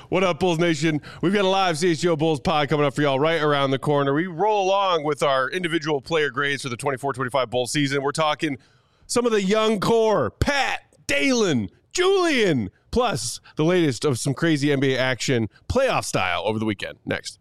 What up, Bulls Nation? We've got a live CHGO Bulls pod coming up for y'all right around the corner. We roll along with our individual player grades for the 24-25 Bulls season. We're talking some of the young core, Pat, Dalen, Julian, plus the latest of some crazy NBA action, playoff style, over the weekend. Next.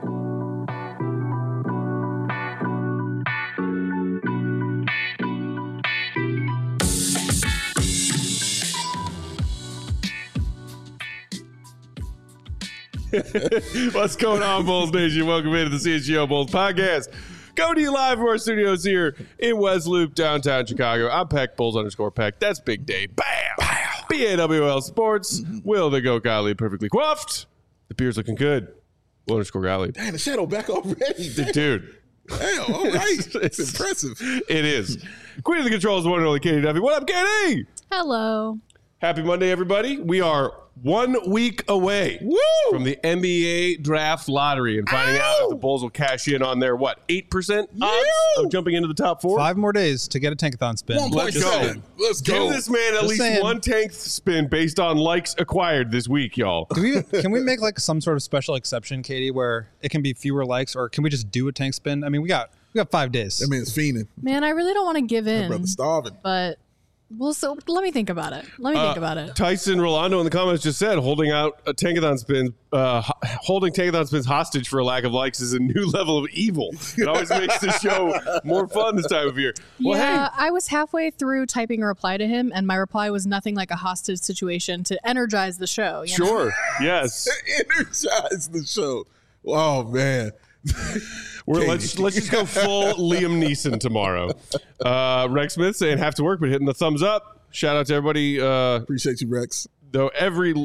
What's going on, Bulls Nation? Welcome into the CHGO Bulls podcast. Coming to you live from our studios here in West Loop, downtown Chicago. I'm Peck, Bulls_Peck. That's Big Dave. Bam! BAWL Sports. Will the Go Golly perfectly coiffed. The beer's looking good. Will_Golly. Damn, the shadow back already. Dude. Damn, all right. It's impressive. It is. Queen of the Controls, one and only Katie Duffy. What up, Katie? Hello. Happy Monday, everybody. We are 1 week away from the NBA draft lottery and finding out if the Bulls will cash in on their, 8% odds of jumping into the top 4? 5 more days to get a tankathon spin. 1.7. Let's go. Give this man at least one tank spin based on likes acquired this week, y'all. Can we make like some sort of special exception, Katie, where it can be fewer likes, or can we just do a tank spin? I mean, we got 5 days. That man's fiending. Man, I really don't want to give in. That brother's starving. But so let me think about it. Tyson Rolando in the comments just said holding tankathon spins hostage for a lack of likes is a new level of evil. It always makes the show more fun this time of year. Well, yeah, I was halfway through typing a reply to him, and my reply was nothing like a hostage situation to energize the show. Sure. Yes. Energize the show. Oh, man. Let's just go full Liam Neeson tomorrow. Rex Smith saying have to work, but hitting the thumbs up. Shout out to everybody. Appreciate you, Rex. Though everyone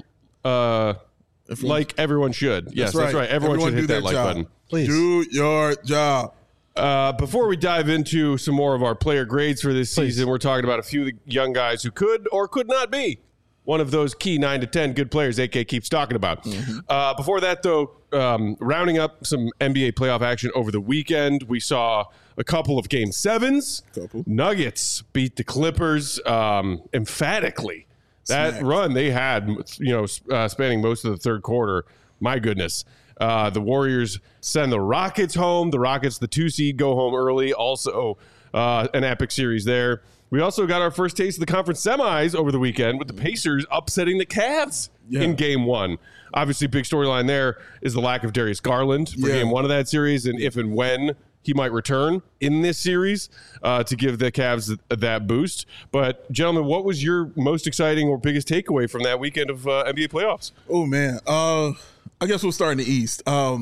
should. Yes, that's right. Everyone should hit that like button. Please do your job. Before we dive into some more of our player grades for this season, we're talking about a few of the young guys who could or could not be one of those key 9 to 10 good players AK keeps talking about. Before that, though, rounding up some NBA playoff action over the weekend, we saw a couple of Game 7s. Nuggets beat the Clippers emphatically. That run they had, spanning most of the third quarter, my goodness. The Warriors send the Rockets home. The Rockets, the 2 seed, go home early. Also, an epic series there. We also got our first taste of the conference semis over the weekend with the Pacers upsetting the Cavs in Game 1. Obviously, big storyline there is the lack of Darius Garland for Game 1 of that series, and if and when he might return in this series to give the Cavs that boost. But, gentlemen, what was your most exciting or biggest takeaway from that weekend of NBA playoffs? Oh, man. I guess we'll start in the East.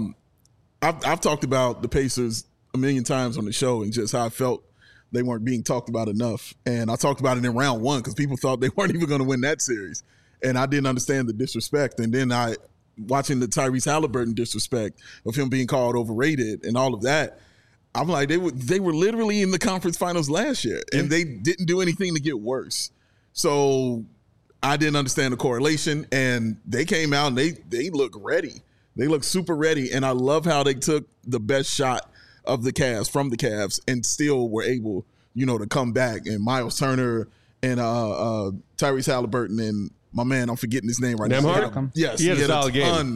I've talked about the Pacers a million times on the show and just how I felt they weren't being talked about enough. And I talked about it in round 1 because people thought they weren't even going to win that series. And I didn't understand the disrespect. And then watching the Tyrese Halliburton disrespect of him being called overrated and all of that, I'm like, they were literally in the conference finals last year and they didn't do anything to get worse. So I didn't understand the correlation, and they came out and they look ready. They look super ready. And I love how they took the best shot of the Cavs from the Cavs and still were able, to come back. And Miles Turner and Tyrese Halliburton and my man, I'm forgetting his name right now. Yes, he had a solid ton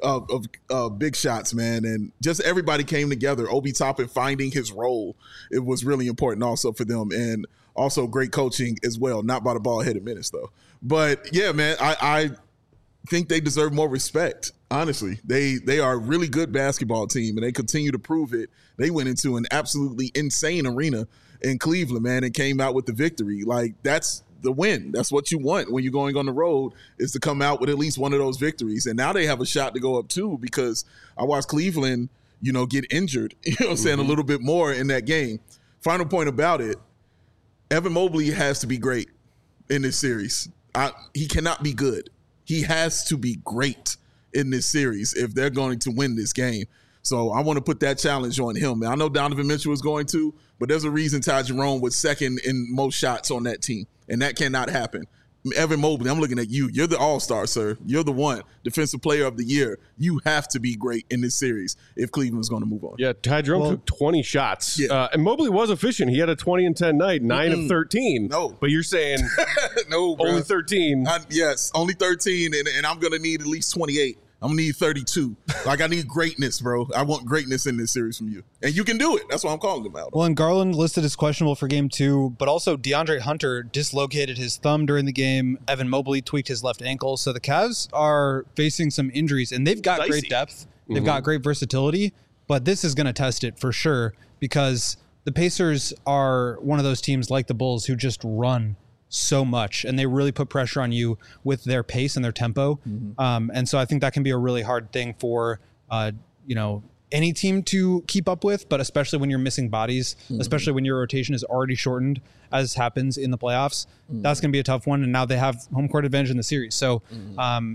of big shots, man. And just everybody came together. Obi Toppin finding his role. It was really important also for them. And also great coaching as well. Not by the ball-headed Menace, though. But, yeah, man, I think they deserve more respect. Honestly, they are a really good basketball team, and they continue to prove it. They went into an absolutely insane arena in Cleveland, man, and came out with the victory. Like, that's the win. That's what you want when you're going on the road, is to come out with at least one of those victories. And now they have a shot to go up, too, because I watched Cleveland, get injured, a little bit more in that game. Final point about it, Evan Mobley has to be great in this series. He cannot be good. He has to be great in this series if they're going to win this game. So I want to put that challenge on him. I know Donovan Mitchell was going to, but there's a reason Ty Jerome was second in most shots on that team, and that cannot happen. Evan Mobley, I'm looking at you. You're the all-star, sir. You're the one. Defensive player of the year. You have to be great in this series if Cleveland's going to move on. Yeah, Ty Jerome took 20 shots. Yeah. And Mobley was efficient. He had a 20-10 night, 9 of 13. No. But you're saying no, only 13. Yes, only 13, and I'm going to need at least 28 I'm going to need 32. Like, I need greatness, bro. I want greatness in this series from you. And you can do it. That's why I'm calling him out. Well, and Garland listed as questionable for game 2, but also DeAndre Hunter dislocated his thumb during the game. Evan Mobley tweaked his left ankle. So the Cavs are facing some injuries, and they've got great depth. They've got great versatility, but this is going to test it for sure because the Pacers are one of those teams like the Bulls who just run so much, and they really put pressure on you with their pace and their tempo. And so I think that can be a really hard thing for, any team to keep up with, but especially when you're missing bodies, especially when your rotation is already shortened, as happens in the playoffs, that's going to be a tough one. And now they have home court advantage in the series. So, I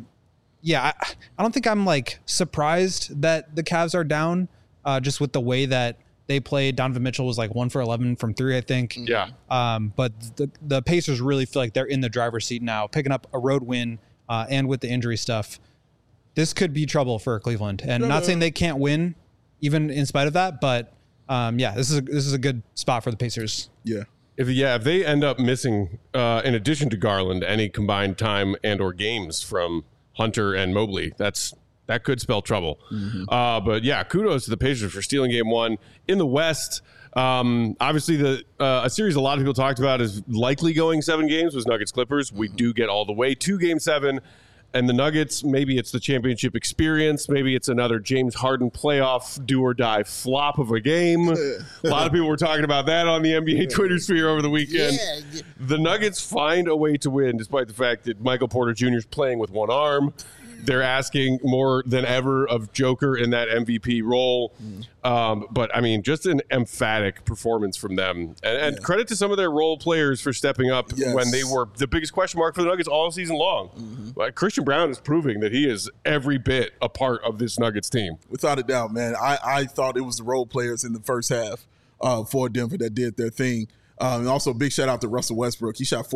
don't think I'm like surprised that the Cavs are down just with the way that they played. Donovan Mitchell was like 1 for 11 from 3, I think. Yeah. But the Pacers really feel like they're in the driver's seat now, picking up a road win and with the injury stuff. This could be trouble for Cleveland. And not saying they can't win, even in spite of that, but this is a good spot for the Pacers. Yeah. If they end up missing, in addition to Garland, any combined time and or games from Hunter and Mobley, that could spell trouble. But yeah, kudos to the Pacers for stealing game 1 in the West. Obviously, a series a lot of people talked about is likely going 7 games was Nuggets Clippers. We do get all the way to game 7. And the Nuggets, maybe it's the championship experience. Maybe it's another James Harden playoff do-or-die flop of a game. A lot of people were talking about that on the NBA Twitter sphere over the weekend. Yeah. The Nuggets find a way to win, despite the fact that Michael Porter Jr. is playing with one arm. They're asking more than ever of Joker in that MVP role. But, I mean, just an emphatic performance from them. And credit to some of their role players for stepping up when they were the biggest question mark for the Nuggets all season long. Christian Brown is proving that he is every bit a part of this Nuggets team. Without a doubt, man. I thought it was the role players in the first half for Denver that did their thing. And also, big shout out to Russell Westbrook. He shot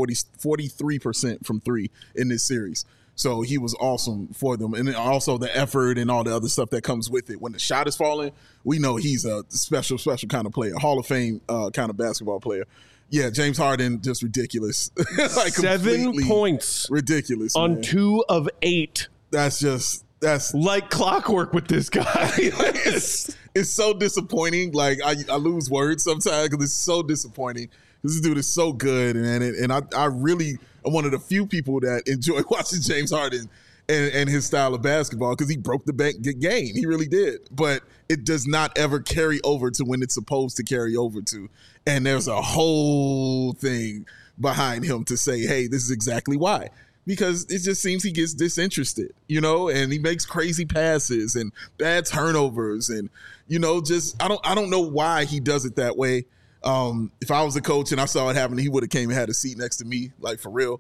43% from 3 in this series. So he was awesome for them. And also the effort and all the other stuff that comes with it. When the shot is falling, we know he's a special kind of player, Hall of Fame kind of basketball player. Yeah, James Harden, just ridiculous. Like 7 points. Ridiculous. On man. 2 of 8. That's like clockwork with this guy. It's so disappointing. Like I lose words sometimes because it's so disappointing. This dude is so good, and I really am one of the few people that enjoy watching James Harden and his style of basketball because he broke the game. He really did. But it does not ever carry over to when it's supposed to carry over to. And there's a whole thing behind him to say, hey, this is exactly why. Because it just seems he gets disinterested, and he makes crazy passes and bad turnovers. And, just I don't know why he does it that way. If I was a coach and I saw it happen, he would have came and had a seat next to me, like for real.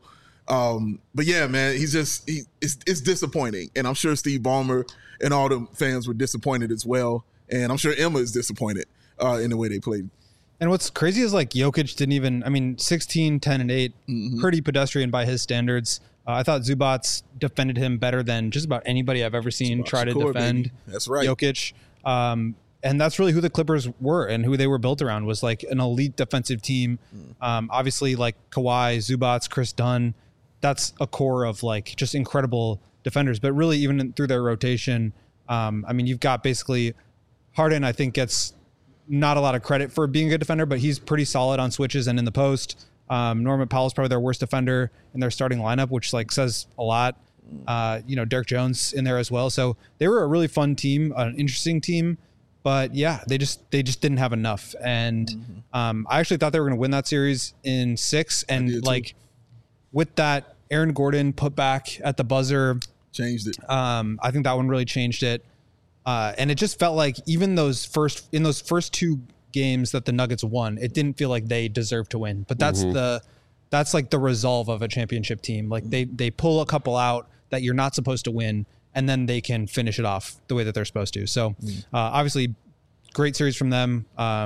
But yeah, man, it's disappointing. And I'm sure Steve Ballmer and all the fans were disappointed as well. And I'm sure Emma is disappointed in the way they played. And what's crazy is like Jokic didn't even, 16, 10, and 8, pretty pedestrian by his standards. I thought Zubats defended him better than just about anybody I've ever seen try to defend That's right. Jokic. And that's really who the Clippers were and who they were built around was like an elite defensive team. Obviously like Kawhi, Zubats, Chris Dunn, that's a core of like just incredible defenders, but really even through their rotation, you've got basically Harden, I think gets not a lot of credit for being a good defender, but he's pretty solid on switches and in the post. Norman Powell's probably their worst defender in their starting lineup, which like says a lot. Derek Jones in there as well. So they were a really fun team, an interesting team. But yeah, they just didn't have enough. And I actually thought they were going to win that series in 6. And like with that Aaron Gordon put back at the buzzer, changed it. I think that one really changed it. And it just felt like even those first 2 games that the Nuggets won, it didn't feel like they deserved to win. But that's like the resolve of a championship team. Like they pull a couple out that you're not supposed to win, and then they can finish it off the way that they're supposed to. So obviously great series from them.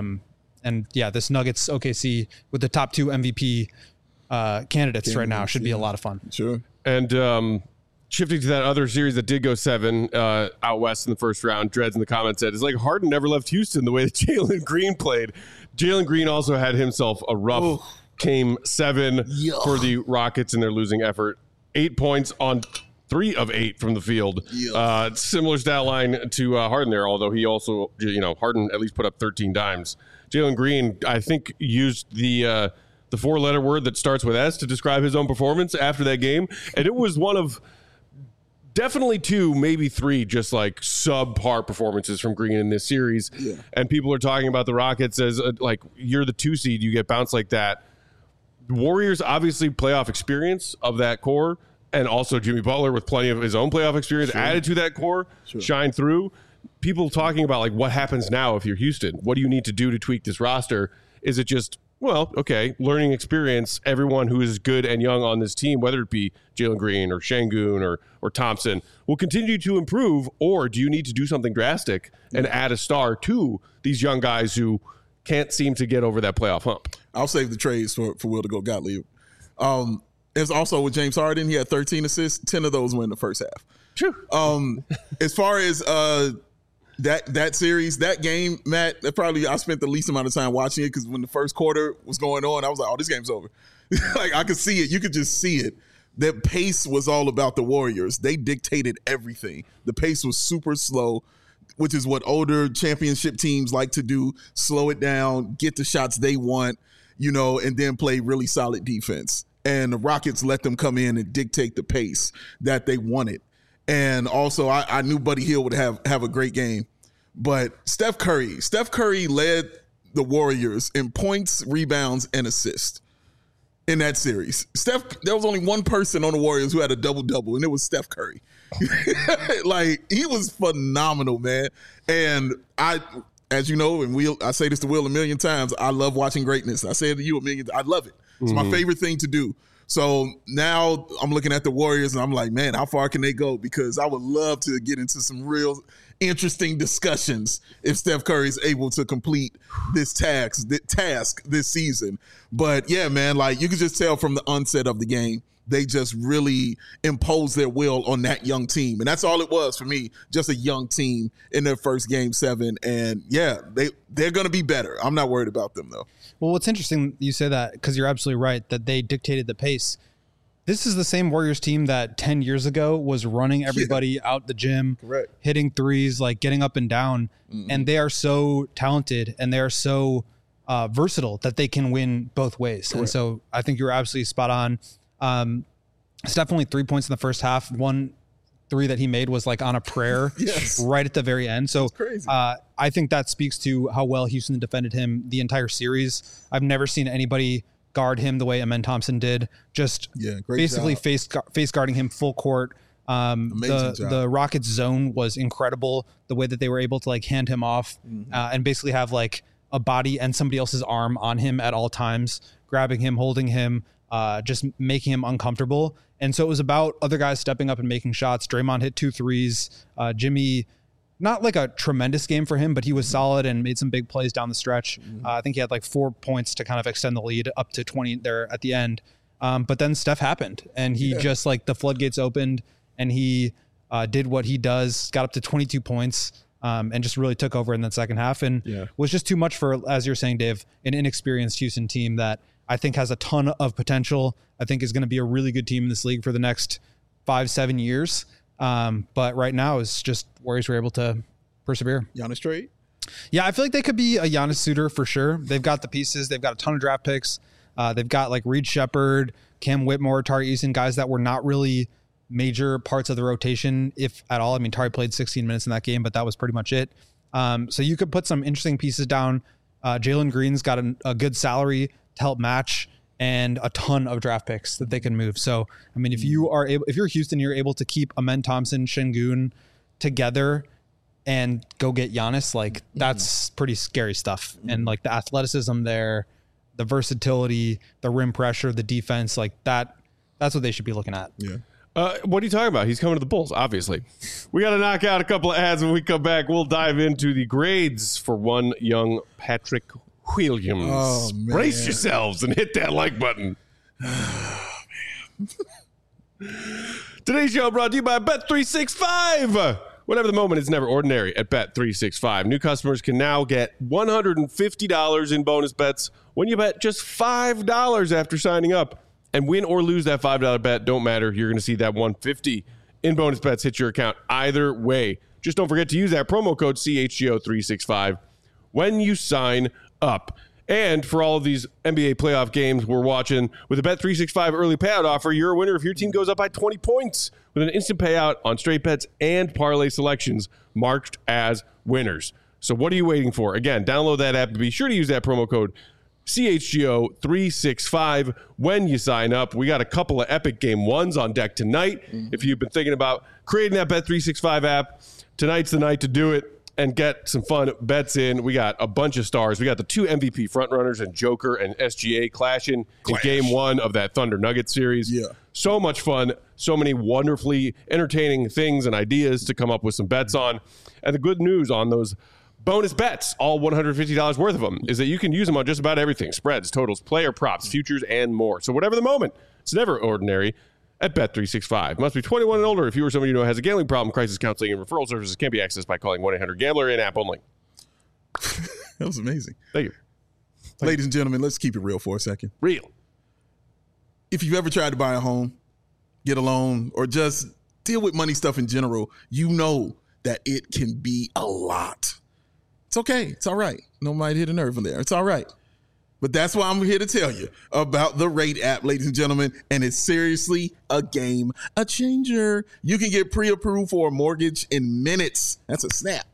And yeah, this Nuggets OKC with the top 2 MVP candidates right now should be a lot of fun. Sure. And shifting to that other series that did go 7 out west in the first round, Dreads in the comments said, it's like Harden never left Houston the way that Jalen Green played. Jalen Green also had himself a rough game 7 for the Rockets in their losing effort. 8 points on 3 of 8 from the field. Similar stat line to Harden there, although he also, Harden at least put up 13 dimes. Jalen Green, I think, used the 4-letter word that starts with S to describe his own performance after that game. And it was one of definitely 2, maybe 3, just like subpar performances from Green in this series. Yeah. And people are talking about the Rockets as like, you're the 2 seed, you get bounced like that. The Warriors, obviously, playoff experience of that core. And also Jimmy Butler with plenty of his own playoff experience added to that core, shine through. People talking about like what happens now if you're Houston. What do you need to do to tweak this roster? Is it just, well, okay, learning experience, everyone who is good and young on this team, whether it be Jalen Green or Şengün or Thompson, will continue to improve, or do you need to do something drastic and add a star to these young guys who can't seem to get over that playoff hump? I'll save the trades for Will to go Gottlieb. It's also with James Harden. He had 13 assists. 10 of those were in the first half. True. As far as that series, that game, Matt, probably I spent the least amount of time watching it because when the first quarter was going on, I was like, oh, this game's over. Like, I could see it. You could just see it. The pace was all about the Warriors. They dictated everything. The pace was super slow, which is what older championship teams like to do. Slow it down, get the shots they want, and then play really solid defense. And the Rockets let them come in and dictate the pace that they wanted. And also, I knew Buddy Hield would have a great game. But Steph Curry led the Warriors in points, rebounds, and assists in that series. There was only one person on the Warriors who had a double-double, and it was Steph Curry. Like, he was phenomenal, man. And as you know, and I say this to Will a million times, I love watching greatness. I say it to you a million times. I love it. It's my favorite thing to do. So now I'm looking at the Warriors and I'm like, man, how far can they go? Because I would love to get into some real interesting discussions if Steph Curry is able to complete this task this season. But yeah, man, like you could just tell from the onset of the game, they just really imposed their will on that young team. And that's all it was for me, just a young team in their first Game 7. And yeah, they're going to be better. I'm not worried about them, though. Well, what's interesting, you say that because you're absolutely right, that they dictated the pace. This is the same Warriors team that 10 years ago was running everybody out the gym, correct, hitting threes, like getting up and down. And they are so talented and they are so versatile that they can win both ways. Correct. And so I think you're absolutely spot on. Steph only 3 points in the first half. 1 3 that he made was like on a prayer right at the very end. So I think that speaks to how well Houston defended him the entire series. I've never seen anybody guard him the way Amen Thompson did. Just basically face guarding him full court. The Rockets zone was incredible. The way that they were able to like hand him off and basically have like a body and somebody else's arm on him at all times, grabbing him, holding him, just making him uncomfortable. And so it was about other guys stepping up and making shots. Draymond hit 2 threes. Jimmy, not like a tremendous game for him, but he was solid and made some big plays down the stretch. I think he had like 4 points to kind of extend the lead up to 20 there at the end. But then Steph happened and he just like the floodgates opened and he did what he does, got up to 22 points and just really took over in that second half and was just too much for, as you're saying, Dave, an inexperienced Houston team that I think has a ton of potential. I think is going to be a really good team in this league for the next 5-7 years. But right now it's just Warriors were able to persevere. Giannis trade? Yeah, I feel like they could be a Giannis suitor for sure. They've got the pieces. They've got a ton of draft picks. They've got like Reed Shepherd, Cam Whitmore, Tari Eason, guys that were not really major parts of the rotation, if at all. I mean, Tari played 16 minutes in that game, but that was pretty much it. So you could put some interesting pieces down. Jalen Green's got a good salary to help match and a ton of draft picks that they can move. So, I mean, if you're Houston, you're able to keep Amen Thompson, Şengün together and go get Giannis, like that's pretty scary stuff. And like the athleticism there, the versatility, the rim pressure, the defense, like that's what they should be looking at. Yeah. What are you talking about? He's coming to the Bulls, obviously. We got to knock out a couple of ads. When we come back, we'll dive into the grades for one young Patrick Williams. Oh, man. Brace yourselves and hit that like button. Today's show brought to you by Bet365. Whatever the moment, it's never ordinary at Bet365. New customers can now get $150 in bonus bets when you bet just $5 after signing up. And win or lose that $5 bet, don't matter. You're going to see that $150 in bonus bets hit your account either way. Just don't forget to use that promo code CHGO365 when you sign up. And for all of these NBA playoff games we're watching, with a Bet365 early payout offer, you're a winner if your team goes up by 20 points with an instant payout on straight bets and parlay selections marked as winners. So what are you waiting for? Again, download that app and be sure to use that promo code CHGO365 when you sign up. We got a couple of epic game ones on deck tonight. If you've been thinking about creating that Bet365 app, tonight's the night to do it and get some fun bets in. We got a bunch of stars. We got the 2 MVP frontrunners and Joker and SGA clashing in game 1 of that Thunder Nuggets series. Yeah. So much fun. So many wonderfully entertaining things and ideas to come up with some bets on. And the good news on those bonus bets, all $150 worth of them, is that you can use them on just about everything. Spreads, totals, player props, futures, and more. So whatever the moment, it's never ordinary at Bet365. Must be 21 and older. If you or somebody you know has a gambling problem, crisis counseling and referral services can be accessed by calling 1-800-GAMBLER in app only. That was amazing. Thank you. Ladies and gentlemen, let's keep it real for a second. Real. If you've ever tried to buy a home, get a loan, or just deal with money stuff in general, you know that it can be a lot. It's okay. It's all right. Nobody hit a nerve in there. It's all right. But that's why I'm here to tell you about the Rate app, ladies and gentlemen. And it's seriously a game changer. You can get pre-approved for a mortgage in minutes. That's a snap.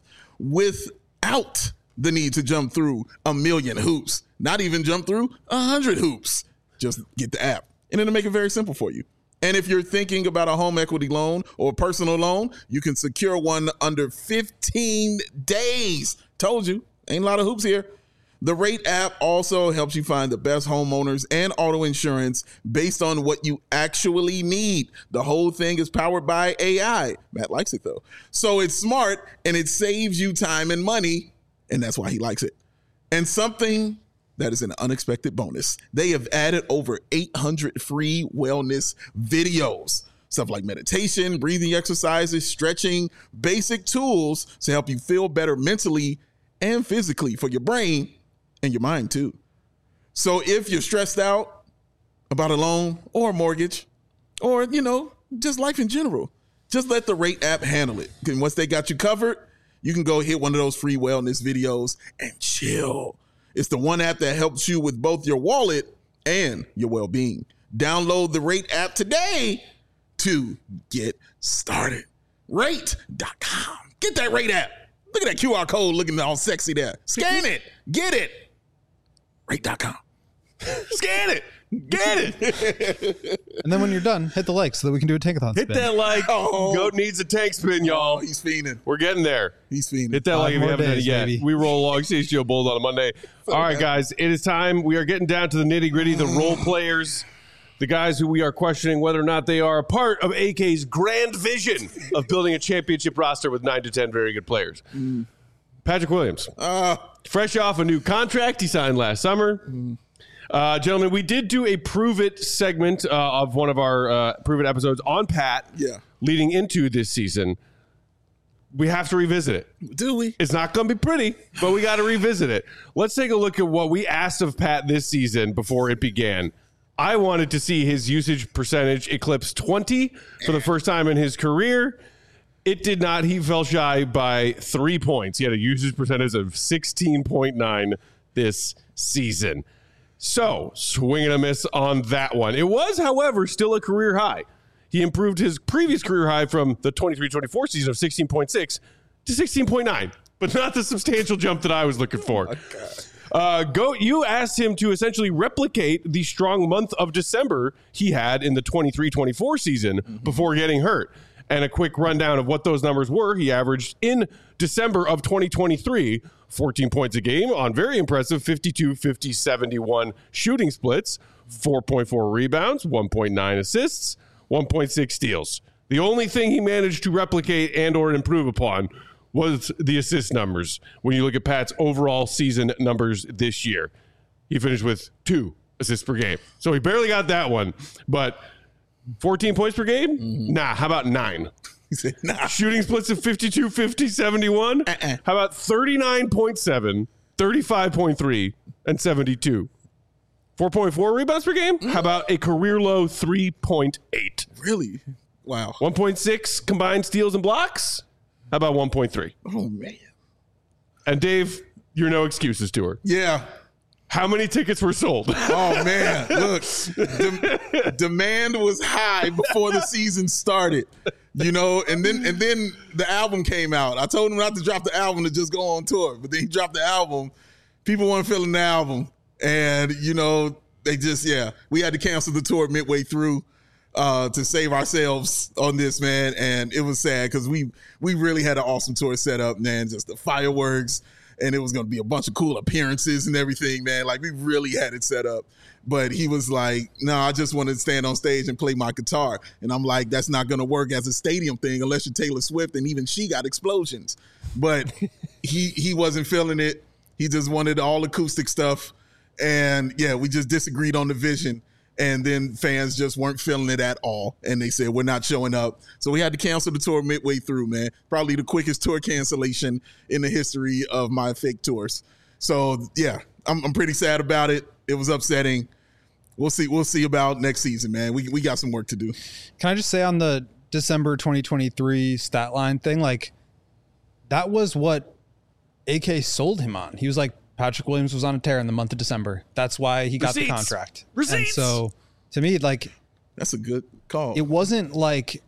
Without the need to jump through a million hoops. Not even jump through 100 hoops. Just get the app. And it'll make it very simple for you. And if you're thinking about a home equity loan or a personal loan, you can secure one under 15 days. Told you, ain't a lot of hoops here. The Rate app also helps you find the best homeowners and auto insurance based on what you actually need. The whole thing is powered by AI. Matt likes it, though. So it's smart, and it saves you time and money, and that's why he likes it. And something that is an unexpected bonus. They have added over 800 free wellness videos. Stuff like meditation, breathing exercises, stretching, basic tools to help you feel better mentally and physically for your brain and your mind too. So if you're stressed out about a loan or a mortgage or, just life in general, just let the Rate app handle it. And once they got you covered, you can go hit one of those free wellness videos and chill. It's the one app that helps you with both your wallet and your well-being. Download the Rate app today to get started. Rate.com. Get that Rate app. Look at that QR code looking all sexy there. Scan it. Get it. Rate.com. Scan it. Get it. And then when you're done, hit the like so that we can do a tankathon spin. Hit that like. Goat needs a tank spin, y'all. He's fiending. We're getting there. He's fiending. Hit that like if you haven't done it yet. Baby. We roll along CHGO Bold on a Monday. All right, guys. It is time. We are getting down to the nitty gritty, the role players, the guys who we are questioning whether or not they are a part of AK's grand vision of building a championship roster with 9 to 10 very good players. Patrick Williams. Fresh off a new contract he signed last summer. Gentlemen, we did do a Prove It segment of one of our Prove It episodes on Pat leading into this season. We have to revisit it. Do we? It's not going to be pretty, but we got to revisit it. Let's take a look at what we asked of Pat this season before it began. I wanted to see his usage percentage eclipse 20 for the first time in his career. It did not. He fell shy by 3 points. He had a usage percentage of 16.9 this season. So, swing and a miss on that one. It was, however, still a career high. He improved his previous career high from the 23-24 season of 16.6 to 16.9, but not the substantial jump that I was looking for. Goat, you asked him to essentially replicate the strong month of December he had in the 23-24 season before getting hurt. And a quick rundown of what those numbers were. He averaged in December of 2023, 14 points a game on very impressive 52, 50, 71 shooting splits, 4.4 rebounds, 1.9 assists, 1.6 steals. The only thing he managed to replicate and or improve upon was the assist numbers. When you look at Pat's overall season numbers this year, he finished with 2 assists per game. So he barely got that one, but 14 points per game? Nah, how about 9? He said, nah. Shooting splits of 52, 50, 71? How about 39.7, 35.3, and 72? 4.4 rebounds per game? How about a career low 3.8? Really? Wow. 1.6 combined steals and blocks. How about 1.3? Oh, man. And Dave, you're no excuses to her. Yeah. How many tickets were sold? Oh, man. Look, demand was high before the season started, you know, and then the album came out. I told him not to drop the album, to just go on tour. But then he dropped the album. People weren't feeling the album. And, you know, they just, we had to cancel the tour midway through to save ourselves on this, man. And it was sad because we really had an awesome tour set up, man. Just the fireworks. And it was going to be a bunch of cool appearances and everything, man. Like, we really had it set up. But he was like, no, I just want to stand on stage and play my guitar. And I'm like, that's not going to work as a stadium thing unless you're Taylor Swift, and even she got explosions. But he wasn't feeling it. He just wanted all acoustic stuff. And, we just disagreed on the vision. And then fans just weren't feeling it at all. And they said, we're not showing up. So we had to cancel the tour midway through, man. Probably the quickest tour cancellation in the history of my fake tours. So, I'm pretty sad about it. It was upsetting. We'll see about next season, man. We got some work to do. Can I just say on the December 2023 stat line thing, like, that was what AK sold him on. He was like, Patrick Williams was on a tear in the month of December. That's why he got the contract. Receipts. And so, to me, like, that's a good call. It wasn't like,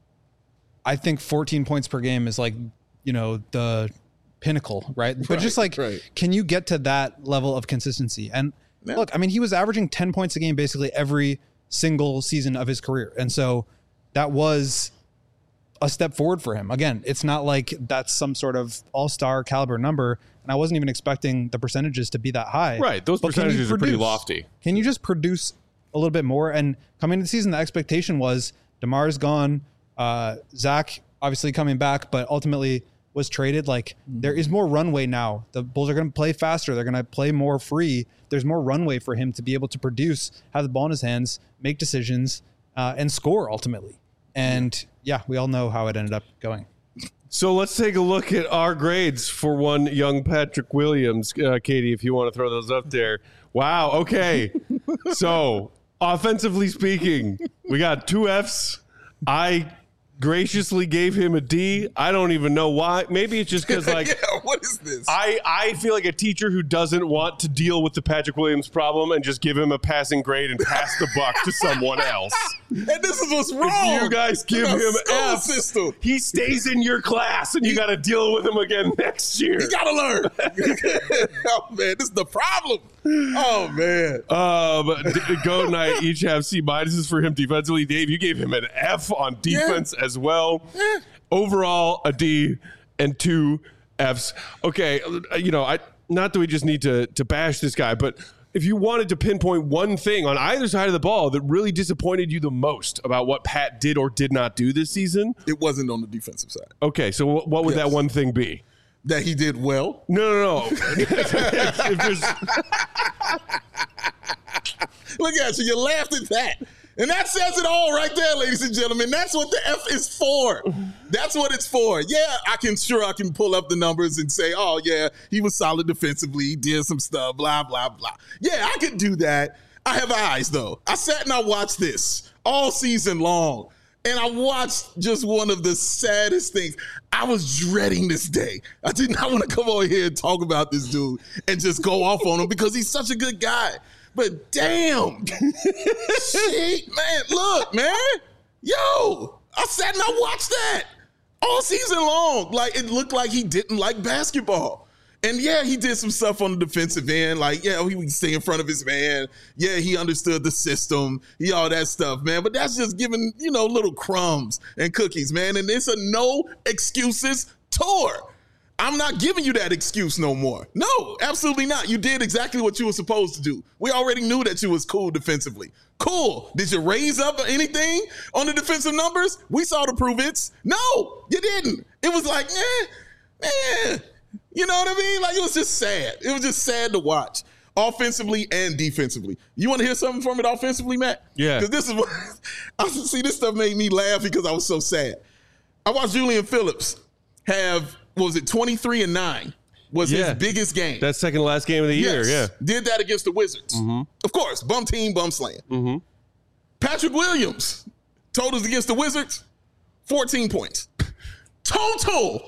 I think 14 points per game is like, you know, the pinnacle, right? But just like, can you get to that level of consistency? And look, I mean, he was averaging 10 points a game basically every single season of his career. And so that was a step forward for him. Again, it's not like that's some sort of all-star caliber number. And I wasn't even expecting the percentages to be that high. Right. Those percentages are pretty lofty. Can you just produce a little bit more? And coming into the season, the expectation was DeMar's gone. Zach obviously coming back, but ultimately was traded. Like, there is more runway now. The Bulls are going to play faster. They're going to play more free. There's more runway for him to be able to produce, have the ball in his hands, make decisions, and score ultimately. And we all know how it ended up going. So let's take a look at our grades for one young Patrick Williams. Katie, if you want to throw those up there. Wow. Okay. So offensively speaking, we got 2 Fs. I graciously gave him a D. I don't even know why. Maybe it's just because, like, what is this? I feel like a teacher who doesn't want to deal with the Patrick Williams problem and just give him a passing grade and pass the buck to someone else. And this is what's wrong. If you guys give him F, system. he stays in your class, and you got to deal with him again next year. You got to learn. Oh, man, this is the problem. Oh, man. Goat and I each have C- for him defensively. Dave, you gave him an F on defense as well. Overall, a D and 2 Fs. Okay, you know, not that we just need to bash this guy, but if you wanted to pinpoint one thing on either side of the ball that really disappointed you the most about what Pat did or did not do this season, it wasn't on the defensive side. Okay, so what would that one thing be? That he did well? No. Look at you. You laughed at that. And that says it all right there, ladies and gentlemen. That's what the F is for. That's what it's for. Yeah, I can pull up the numbers and say, oh, yeah, he was solid defensively. He did some stuff, blah, blah, blah. Yeah, I could do that. I have eyes, though. I sat and I watched this all season long. And I watched just one of the saddest things. I was dreading this day. I did not want to come over here and talk about this dude and just go off on him because he's such a good guy. But damn, shit, man, look, man, yo, I sat and I watched that all season long. Like, it looked like he didn't like basketball. And yeah, he did some stuff on the defensive end. Like, yeah, he would stay in front of his man. Yeah, he understood the system. All that stuff, man. But that's just giving, little crumbs and cookies, man. And it's a no excuses tour. I'm not giving you that excuse no more. No, absolutely not. You did exactly what you were supposed to do. We already knew that you was cool defensively. Cool. Did you raise up anything on the defensive numbers? We saw the prove-its. No, you didn't. It was like, man. You know what I mean? Like, it was just sad. It was just sad to watch, offensively and defensively. You want to hear something from it offensively, Matt? Yeah. Because this is what this stuff made me laugh because I was so sad. I watched Julian Phillips have, 23-9 was his biggest game. That second to last game of the year, yeah. Did that against the Wizards. Mm-hmm. Of course, bum team, bum slaying. Mm-hmm. Patrick Williams told us against the Wizards, 14 points. Total.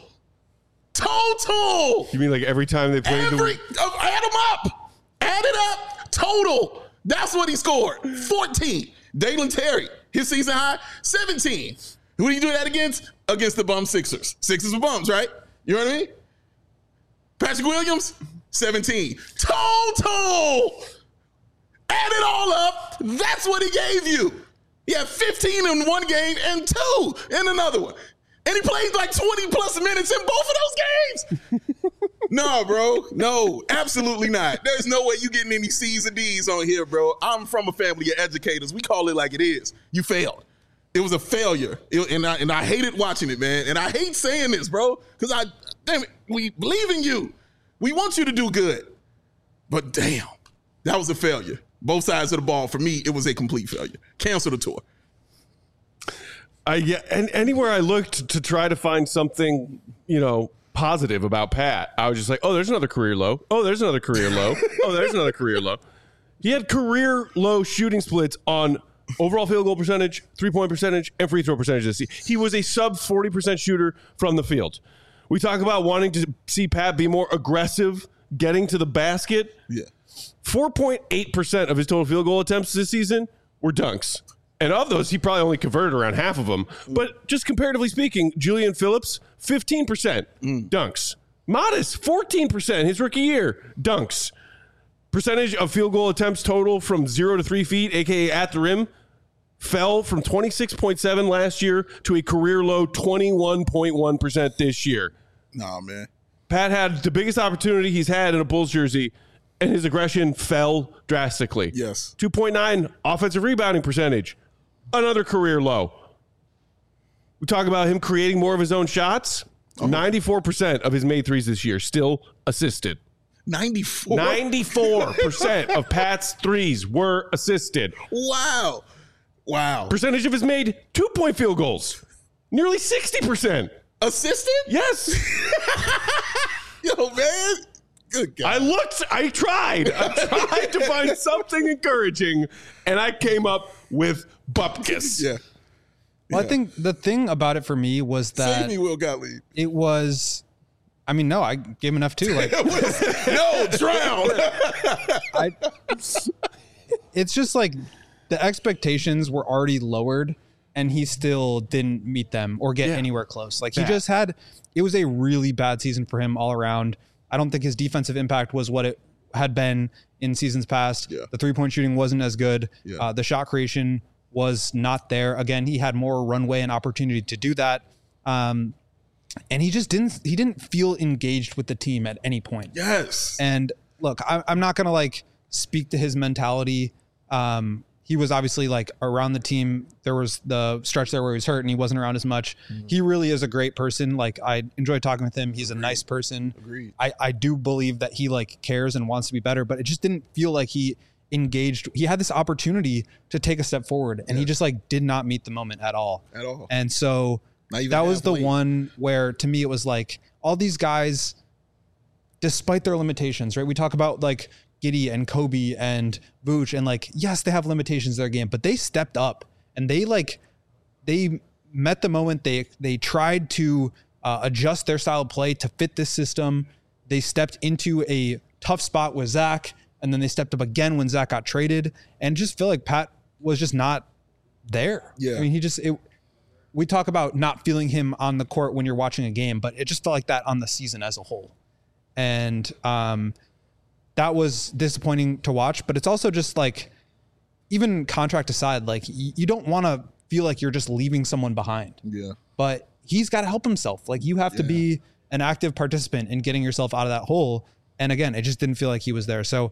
You mean like every time they played add them up. Add it up. Total. That's what he scored. 14. Dalen Terry, his season high, 17. Who do you do that against? Against the bum Sixers. Sixers were bums, right? You know what I mean? Patrick Williams, 17. Total. Add it all up. That's what he gave you. He had 15 in one game and 2 in another one. And he played like 20 plus minutes in both of those games. No, bro. No, absolutely not. There's no way you getting any C's and D's on here, bro. I'm from a family of educators. We call it like it is. You failed. It was a failure. And I hated watching it, man. And I hate saying this, bro, because we believe in you. We want you to do good. But damn, that was a failure. Both sides of the ball. For me, it was a complete failure. Cancel the tour. And anywhere I looked to try to find something, positive about Pat, I was just like, oh, there's another career low. Oh, there's another career low. Oh, there's another career low. He had career low shooting splits on overall field goal percentage, 3-point percentage, and free throw percentage this season. He was a sub 40% shooter from the field. We talk about wanting to see Pat be more aggressive, getting to the basket. Yeah. 4.8% of his total field goal attempts this season were dunks. And of those, he probably only converted around half of them. But just comparatively speaking, Julian Phillips, 15% dunks. Modest, 14% his rookie year, dunks. Percentage of field goal attempts total from 0 to 3 feet, a.k.a. at the rim, fell from 26.7 last year to a career low 21.1% this year. Nah, man. Pat had the biggest opportunity he's had in a Bulls jersey, and his aggression fell drastically. Yes. 2.9 offensive rebounding percentage. Another career low. We talk about him creating more of his own shots. 94% of his made threes this year still assisted. 94? 94% of Pat's threes were assisted. Wow. Percentage of his made 2-point field goals. Nearly 60%. Assisted? Yes. Yo, man. Good God. I tried to find something encouraging, and I came up with Bupkis. Yeah. Well, I think the thing about it for me was that Save me, Will Gottlieb. It was, no, I gave him enough too. Like, no, drown. It's just like the expectations were already lowered, and he still didn't meet them or get anywhere close. Like it was a really bad season for him all around. I don't think his defensive impact was what it had been in seasons past. Yeah. The 3-point shooting wasn't as good. Yeah. The shot creation was not there. Again, he had more runway and opportunity to do that. And he just didn't feel engaged with the team at any point. Yes. And look, I'm not going to speak to his mentality. He was obviously around the team. There was the stretch there where he was hurt and he wasn't around as much. Mm-hmm. He really is a great person. I enjoy talking with him. He's a nice person. Agreed. I do believe that he cares and wants to be better, but it just didn't feel like he engaged. He had this opportunity to take a step forward and he just did not meet the moment at all. And so that was the one where to me it was all these guys, despite their limitations, right? We talk about Giddey and Kobe and Vooch and yes, they have limitations in their game, but they stepped up and they met the moment. They tried to adjust their style of play to fit this system. They stepped into a tough spot with Zach, and then they stepped up again when Zach got traded, and just feel like Pat was just not there. Yeah. I mean, we talk about not feeling him on the court when you're watching a game, but it just felt like that on the season as a whole. And that was disappointing to watch, but it's also just even contract aside, you don't want to feel like you're just leaving someone behind. Yeah. But he's got to help himself. You have to be an active participant in getting yourself out of that hole. And again, it just didn't feel like he was there. So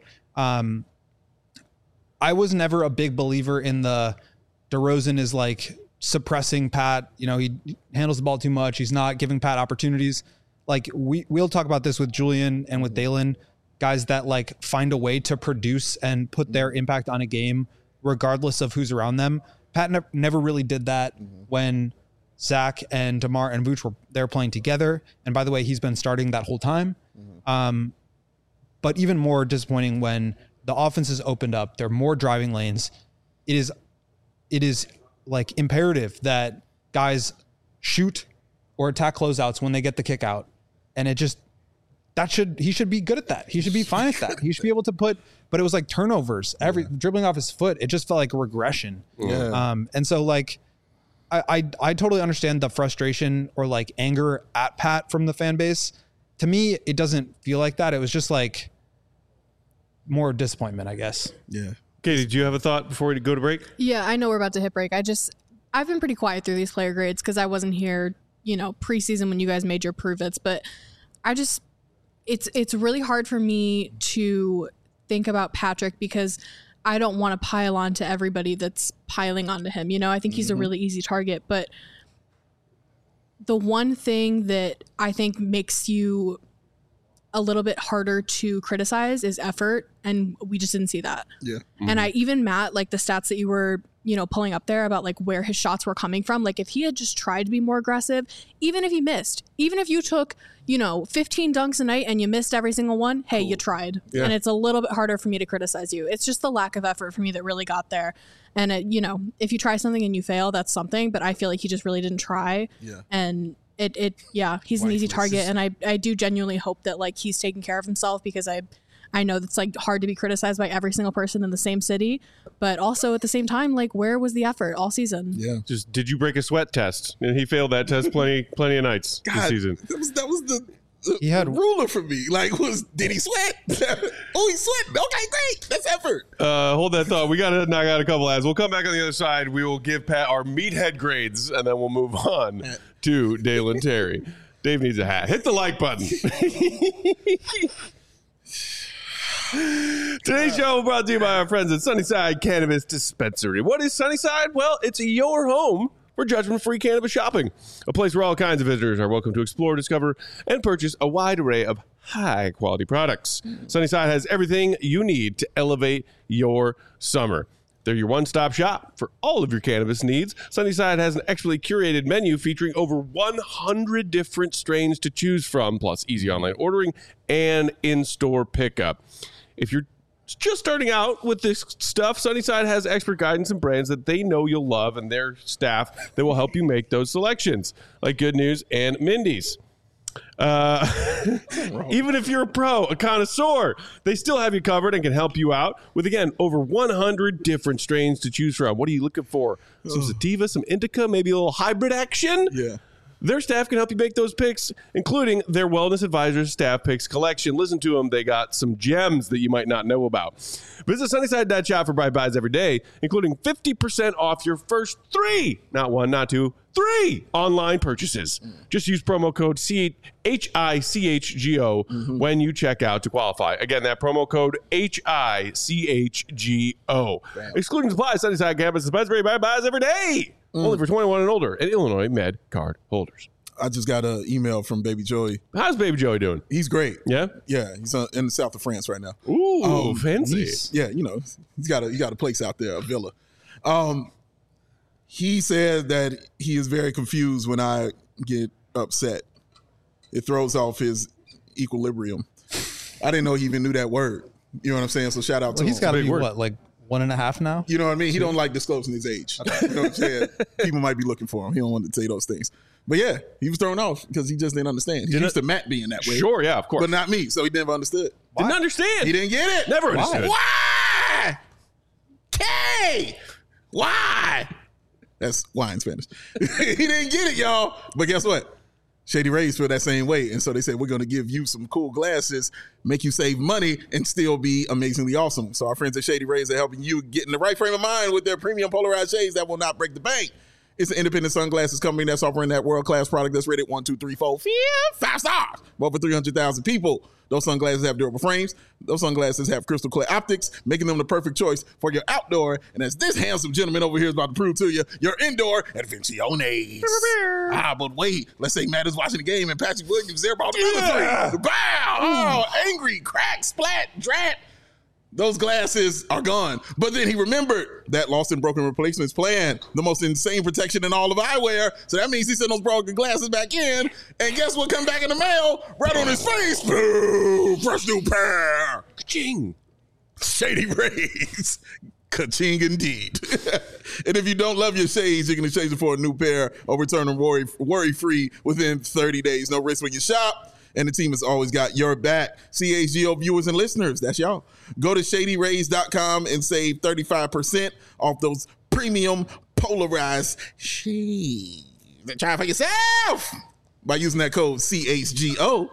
I was never a big believer in the DeRozan is suppressing Pat. He handles the ball too much. He's not giving Pat opportunities. We'll talk about this with Julian and with Dalen, guys that find a way to produce and put their impact on a game regardless of who's around them. Pat never really did that when Zach and DeMar and Vooch were there playing together. And by the way, he's been starting that whole time. But even more disappointing when the offense is opened up, there are more driving lanes. It is imperative that guys shoot or attack closeouts when they get the kick out. And it just, he should be good at that. He should be fine at that. He should be able to but it was like turnovers, dribbling off his foot. It just felt like a regression. Yeah. And so like, I totally understand the frustration or like anger at Pat from the fan base. To me, it doesn't feel like that. It was just like more disappointment, I guess. Yeah. Katie, did you have a thought before we go to break? Yeah, I know we're about to hit break. I've been pretty quiet through these player grades because I wasn't here, preseason when you guys made your prove-its, but it's really hard for me to think about Patrick because I don't want to pile on to everybody that's piling onto him. I think he's a really easy target, but the one thing that I think makes you a little bit harder to criticize is effort, and we just didn't see that. Yeah. And Matt, like the stats that you were, pulling up there about like where his shots were coming from, like if he had just tried to be more aggressive, even if he missed, even if you took, 15 dunks a night and you missed every single one, hey, you tried. Yeah. And it's a little bit harder for me to criticize you. It's just the lack of effort for me that really got there. And if you try something and you fail, that's something, but I feel like he just really didn't try. Yeah. And he's an easy target, and I do genuinely hope that like he's taking care of himself, because I know that's like hard to be criticized by every single person in the same city, but also at the same time, like where was the effort all season? Yeah. Just did you break a sweat test? And he failed that test plenty of nights this season. That was the ruler for me. Like, did he sweat? Oh, he sweat. Okay, great. That's effort. Hold that thought. We got to knock out a couple ads. We'll come back on the other side. We will give Pat our meathead grades, and then we'll move on to Dalen Terry. Dave needs a hat. Hit the like button. Today's show brought to you by our friends at Sunnyside Cannabis Dispensary. What is Sunnyside? Well, it's your home for judgment-free cannabis shopping. A place where all kinds of visitors are welcome to explore, discover, and purchase a wide array of high-quality products. Sunnyside has everything you need to elevate your summer. They're your one-stop shop for all of your cannabis needs. Sunnyside has an expertly curated menu featuring over 100 different strains to choose from, plus easy online ordering and in-store pickup. If you're just starting out with this stuff, Sunnyside has expert guidance and brands that they know you'll love, and their staff that will help you make those selections, like Good News and Mindy's. Even if you're a pro, a connoisseur, they still have you covered and can help you out with, again, over 100 different strains to choose from. What are you looking for? Some sativa, some indica, maybe a little hybrid action? Yeah. Their staff can help you make those picks, including their Wellness Advisors Staff Picks collection. Listen to them. They got some gems that you might not know about. Visit Sunnyside.shop for bright buys every day, including 50% off your first 3, not 1, not 2, 3 online purchases. Just use promo code HICHGO when you check out to qualify. Again, that promo code HICHGO. Excluding supplies, Sunnyside Campus Dispensary bright buys every day. Only for 21 and older and Illinois Med card holders. I just got an email from Baby Joey. How's Baby Joey doing? He's great. Yeah? Yeah, he's in the south of France right now. Ooh, fancy. Yeah, he's got a place out there, a villa. He said that he is very confused when I get upset. It throws off his equilibrium. I didn't know he even knew that word. You know what I'm saying? So shout out to him. He's got to be what, like 1.5 now? You know what I mean? He don't like disclosing his age. You know what I'm saying? People might be looking for him. He don't want to say those things. But yeah, he was thrown off because he just didn't understand. He's used to Matt being that way. Sure, yeah, of course. But not me, so he never understood. Didn't understand. He didn't get it. Never understood. Why? K! Why? That's why in Spanish. He didn't get it, y'all. But guess what? Shady Rays feel that same way. And so they said, we're going to give you some cool glasses, make you save money, and still be amazingly awesome. So our friends at Shady Rays are helping you get in the right frame of mind with their premium polarized shades that will not break the bank. It's an independent sunglasses company that's offering that world-class product that's rated 1, 2, 3, 4, 5 stars. For over 300,000 people. Those sunglasses have durable frames. Those sunglasses have crystal clear optics, making them the perfect choice for your outdoor. And as this handsome gentleman over here is about to prove to you, your indoor advenciones. But wait. Let's say Matt is watching the game and Patrick Williams there about the 3. Bow! Oh, angry, crack, splat, drat. Those glasses are gone. But then he remembered that lost and broken replacements plan, the most insane protection in all of eyewear. So that means he sent those broken glasses back in. And guess what come back in the mail? Right on his face. Boom! Fresh new pair. Ka-ching. Shady Rays. Ka-ching indeed. And if you don't love your shades, you can exchange them for a new pair or return them worry-free within 30 days. No risk when you shop. And the team has always got your back. CHGO viewers and listeners, that's y'all. Go to ShadyRays.com and save 35% off those premium polarized shades. Try it for yourself by using that code CHGO.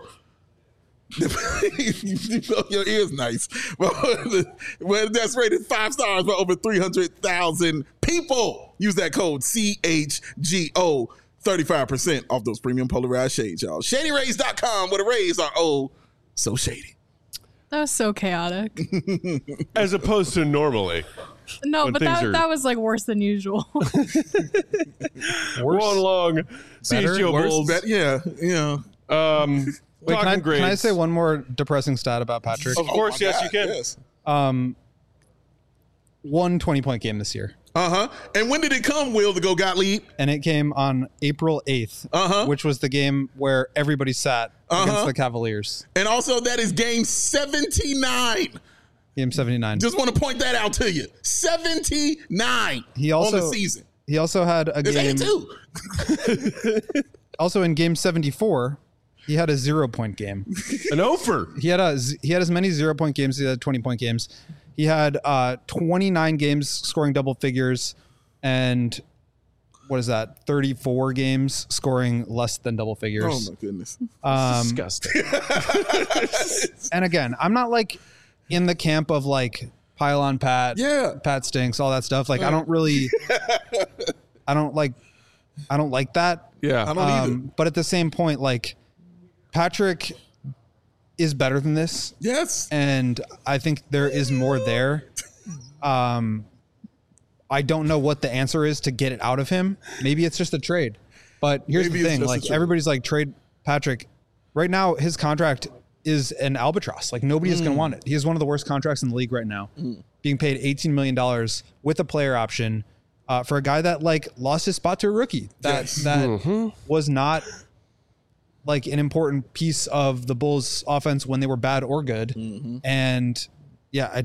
Your ear's nice. Well, that's rated 5 stars by over 300,000 people. Use that code CHGO. 35% off those premium polarized shades, y'all. ShadyRays.com, where the rays are so shady. That was so chaotic. As opposed to normally. No, but that was like worse than usual. One long CHGO Bulls. Yeah. Wait, can I say one more depressing stat about Patrick? Of course, yes, you can. Yes. 1 20-point game this year. And when did it come, Will, to go Gottlieb? And it came on April 8th, which was the game where everybody sat against the Cavaliers. And also, that is game 79. Game 79. Just want to point that out to you. 79 on the season. He also had a game. 82. Also in game 74, he had a 0-point game. An over. He had as many 0-point games as he had 20-point games. He had 29 games scoring double figures, and what is that? 34 games scoring less than double figures. Oh my goodness, disgusting. And again, I'm not like in the camp of like pile on Pat. Yeah, Pat stinks, all that stuff. Like I don't like that. Yeah, I don't either. But at the same point, like Patrick is better than this. Yes. And I think there is more there. I don't know what the answer is to get it out of him. Maybe it's just a trade. But here's the thing, like everybody's like trade Patrick. Right now his contract is an albatross. Like nobody is going to want it. He has one of the worst contracts in the league right now. Being paid $18 million with a player option for a guy that like lost his spot to a rookie. That was not like an important piece of the Bulls offense when they were bad or good. And yeah,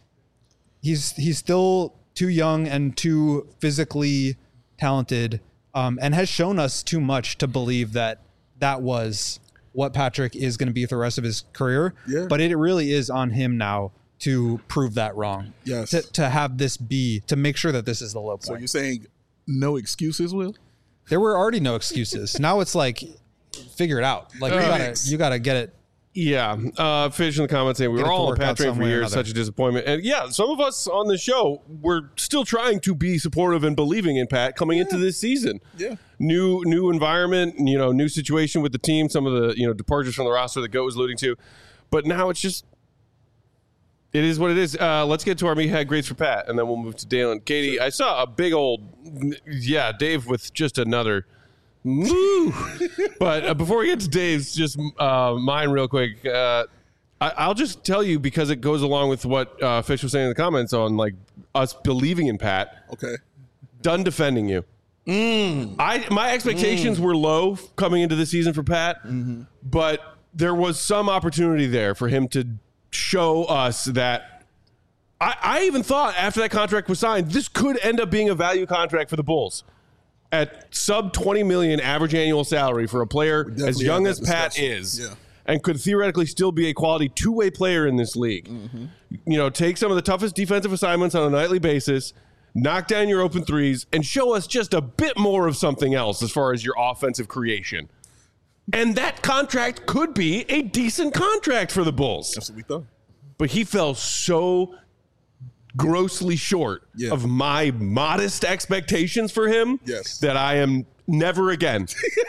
he's still too young and too physically talented, and has shown us too much to believe that was what Patrick is going to be for the rest of his career. Yeah. But it really is on him now to prove that wrong. Yes. To have this be, to make sure that this is the low point. So you're saying no excuses, Will? There were already no excuses. Now it's like, figure it out. Like you gotta get it. Yeah. Fish in the comments saying we were all on Pat train for years. Such a disappointment. And yeah, some of us on the show were still trying to be supportive and believing in Pat coming into this season. Yeah. New environment, new situation with the team. Some of the departures from the roster that Goat was alluding to, but now it's just. It is what it is. Let's get to our Meathead grades for Pat, and then we'll move to Dalen. Katie, sure. I saw a big old, Dave with just another. Woo! But before we get to Dave's, just mine real quick. I'll just tell you because it goes along with what Fish was saying in the comments on like us believing in Pat. Okay. Done defending you. My expectations were low coming into the season for Pat, but there was some opportunity there for him to show us that. I even thought after that contract was signed, this could end up being a value contract for the Bulls. At sub $20 million average annual salary for a player as young as Pat is, and could theoretically still be a quality two-way player in this league. Take some of the toughest defensive assignments on a nightly basis, knock down your open threes, and show us just a bit more of something else as far as your offensive creation. And that contract could be a decent contract for the Bulls. That's what we thought. But he fell so grossly short of my modest expectations for him that I am never again.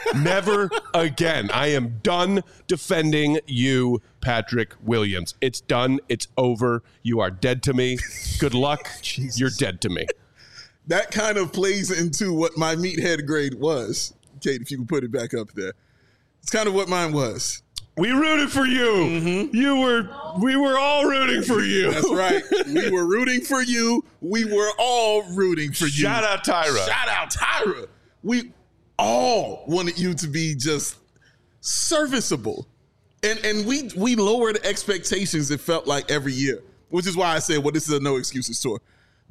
I am done defending you, Patrick Williams. It's done. It's over. You are dead to me. Good luck. You're dead to me. That kind of plays into what my meathead grade was. Kate, if you can put it back up there. It's kind of what mine was. We rooted for you. We were all rooting for you. That's right. We were rooting for you. We were all rooting for you. Shout out Tyra. We all wanted you to be just serviceable. And we lowered expectations, it felt like, every year, which is why I said, well, this is a no excuses tour.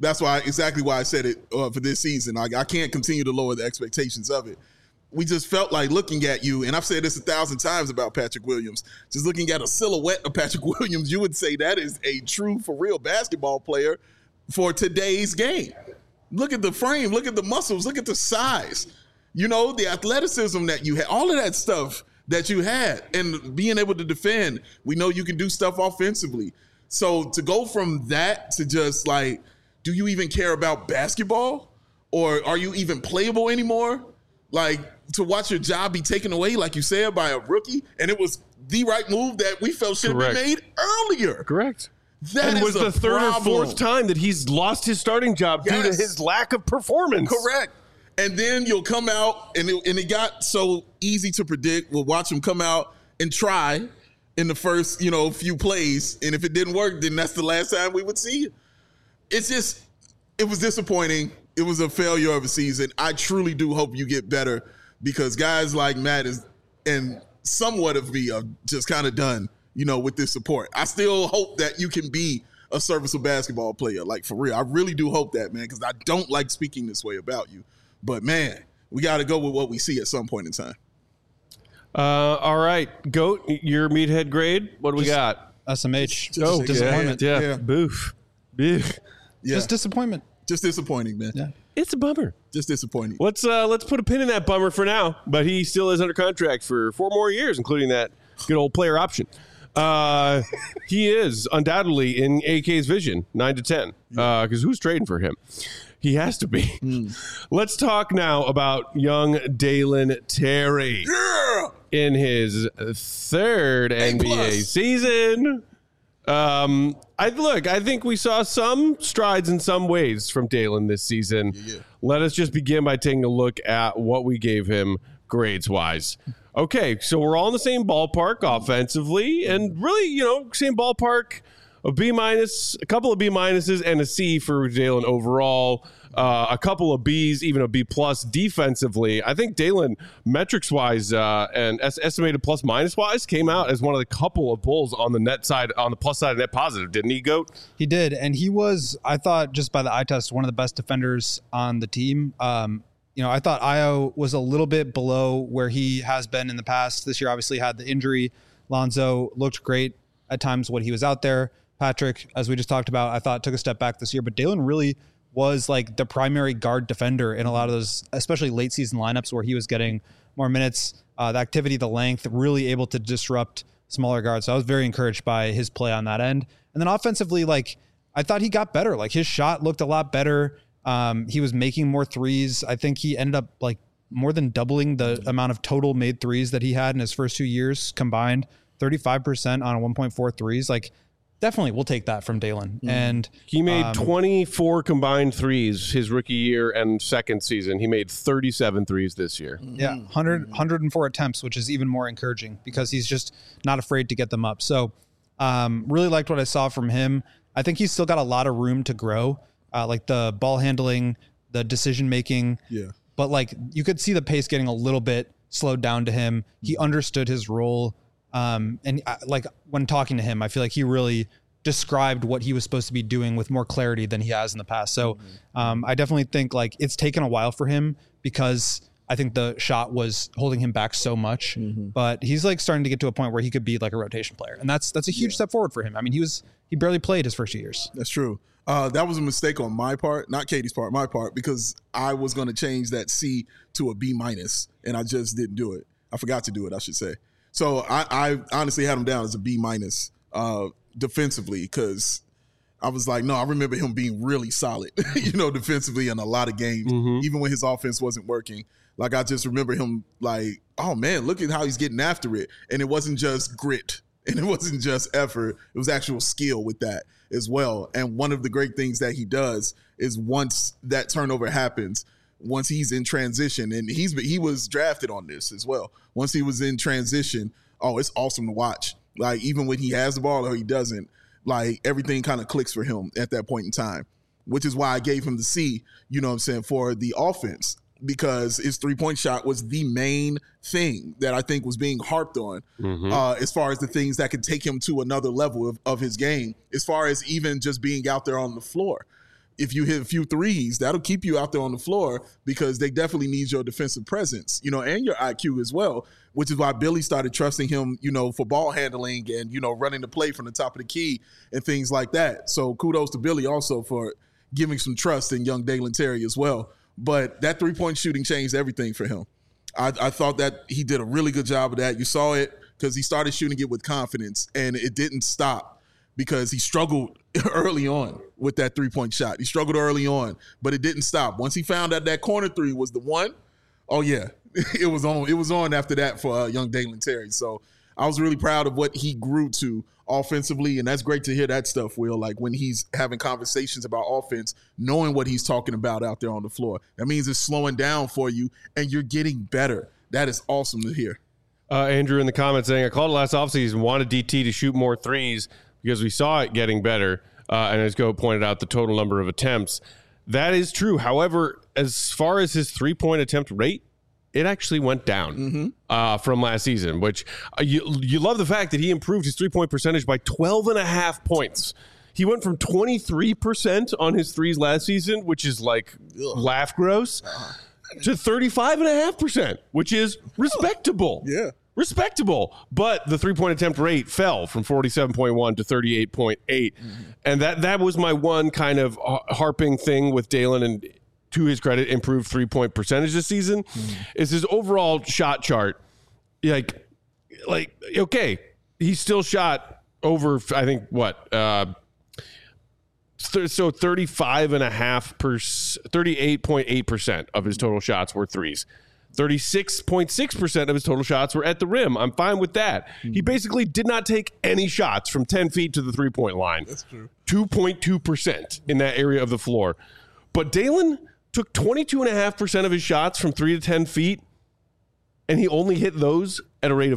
That's exactly why I said it for this season. I can't continue to lower the expectations of it. We just felt like looking at you, and I've said this 1,000 times about Patrick Williams, just looking at a silhouette of Patrick Williams, you would say that is a true, for real basketball player for today's game. Look at the frame, look at the muscles, look at the size, the athleticism that you had, all of that stuff that you had, and being able to defend. We know you can do stuff offensively. So to go from that to just like, do you even care about basketball? Or are you even playable anymore? Like, to watch your job be taken away, like you said, by a rookie, and it was the right move that we felt should have been made earlier. Correct. That and was the third problem. or fourth time that he's lost his starting job due to his lack of performance. Correct. And then you'll come out, and it got so easy to predict. We'll watch him come out and try in the first, few plays, and if it didn't work, then that's the last time we would see it. It was disappointing. It was a failure of a season. I truly do hope you get better, because guys like Matt and somewhat of me are just kind of done, with this support. I still hope that you can be a serviceable basketball player, like for real. I really do hope that, man, because I don't like speaking this way about you. But, man, we got to go with what we see at some point in time. All right. Goat, your meathead grade, what do we got? SMH. Disappointment. Yeah. Boof. Yeah. Just disappointment. Just disappointing, man. Yeah. It's a bummer. Just disappointing. Let's put a pin in that bummer for now, but he still is under contract for 4 more years, including that good old player option. He is undoubtedly in AK's vision, 9 to 10, because who's trading for him? He has to be. Let's talk now about young Dalen Terry in his 3rd NBA season. I think we saw some strides in some ways from Dalen this season. Let us just begin by taking a look at what we gave him grades-wise. Okay, so we're all in the same ballpark offensively, and really, same ballpark. A B-, a couple of B- and a C for Dalen overall. A couple of Bs, even a B+ defensively. I think Dalen, metrics-wise and estimated plus-minus-wise, came out as one of the couple of Bulls on the net side, on the plus side of net positive, didn't he, Goat? He did, and he was, I thought, just by the eye test, one of the best defenders on the team. I thought Ayo was a little bit below where he has been in the past. This year obviously had the injury. Lonzo looked great at times when he was out there. Patrick, as we just talked about, I thought took a step back this year, but Dalen really was like the primary guard defender in a lot of those, especially late season lineups where he was getting more minutes, the activity, the length, really able to disrupt smaller guards. So I was very encouraged by his play on that end. And then offensively, I thought he got better. His shot looked a lot better. He was making more threes. I think he ended up more than doubling the amount of total made threes that he had in his first 2 years combined, 35% on a 1.4 threes. Definitely, we'll take that from Dalen. And he made 24 combined threes his rookie year and second season. He made 37 threes this year. Yeah, 104 attempts, which is even more encouraging because he's just not afraid to get them up. So really liked what I saw from him. I think he's still got a lot of room to grow, the ball handling, the decision making. Yeah. But you could see the pace getting a little bit slowed down to him. He understood his role. And when talking to him, I feel like he really described what he was supposed to be doing with more clarity than he has in the past. So I definitely think it's taken a while for him because I think the shot was holding him back so much, but he's starting to get to a point where he could be a rotation player. And that's a huge step forward for him. I mean, he barely played his first 2 years. That's true. That was a mistake on my part, not Katie's part, my part, because I was going to change that C to a B-, and I just didn't do it. I forgot to do it, I should say. So I honestly had him down as a B- defensively, because I was like, no, I remember him being really solid, defensively in a lot of games, even when his offense wasn't working. I just remember him oh man, look at how he's getting after it. And it wasn't just grit and it wasn't just effort. It was actual skill with that as well. And one of the great things that he does is once that turnover happens, once he's in transition, and he was drafted on this as well. Once he was in transition, it's awesome to watch. Even when he has the ball or he doesn't, everything kind of clicks for him at that point in time, which is why I gave him the C, for the offense, because his 3-point shot was the main thing that I think was being harped on as far as the things that could take him to another level of his game, as far as even just being out there on the floor. if you hit a few threes, that'll keep you out there on the floor because they definitely need your defensive presence, and your IQ as well, which is why Billy started trusting him, for ball handling and, running the play from the top of the key and things like that. So kudos to Billy also for giving some trust in young Dalen Terry as well. But that three-point shooting changed everything for him. I thought that he did a really good job of that. You saw it because he started shooting it with confidence, and it didn't stop because he struggled early on with that three-point shot. He struggled early on, but it didn't stop. Once he found out that corner three was the one, oh, yeah, it was on. It was on after that for young Dalen Terry. So I was really proud of what he grew to offensively, and that's great to hear that stuff, Will, like when he's having conversations about offense, knowing what he's talking about out there on the floor. That means it's slowing down for you, and you're getting better. That is awesome to hear. Andrew in the comments saying, I called it last offseason, wanted DT to shoot more threes because we saw it getting better. And as Go pointed out, the total number of attempts. That is true. However, as far as his three-point attempt rate, it actually went down from last season, which you love the fact that he improved his three-point percentage by 12.5 points. He went from 23% on his threes last season, which is like laugh gross, to 35.5%, which is respectable. Yeah. Respectable. But the three-point attempt rate fell from 47.1 to 38.8. And that was my one kind of harping thing with Dalen, and to his credit, improved three-point percentage this season, is his overall shot chart. Like, okay, he still shot over, I think, what, so 38.8% of his total shots were threes. 36.6% of his total shots were at the rim. I'm fine with that. He basically did not take any shots from 10 feet to the three-point line. That's true. 2.2% in that area of the floor. But Dalen took 22.5% of his shots from 3 to 10 feet, and he only hit those at a rate of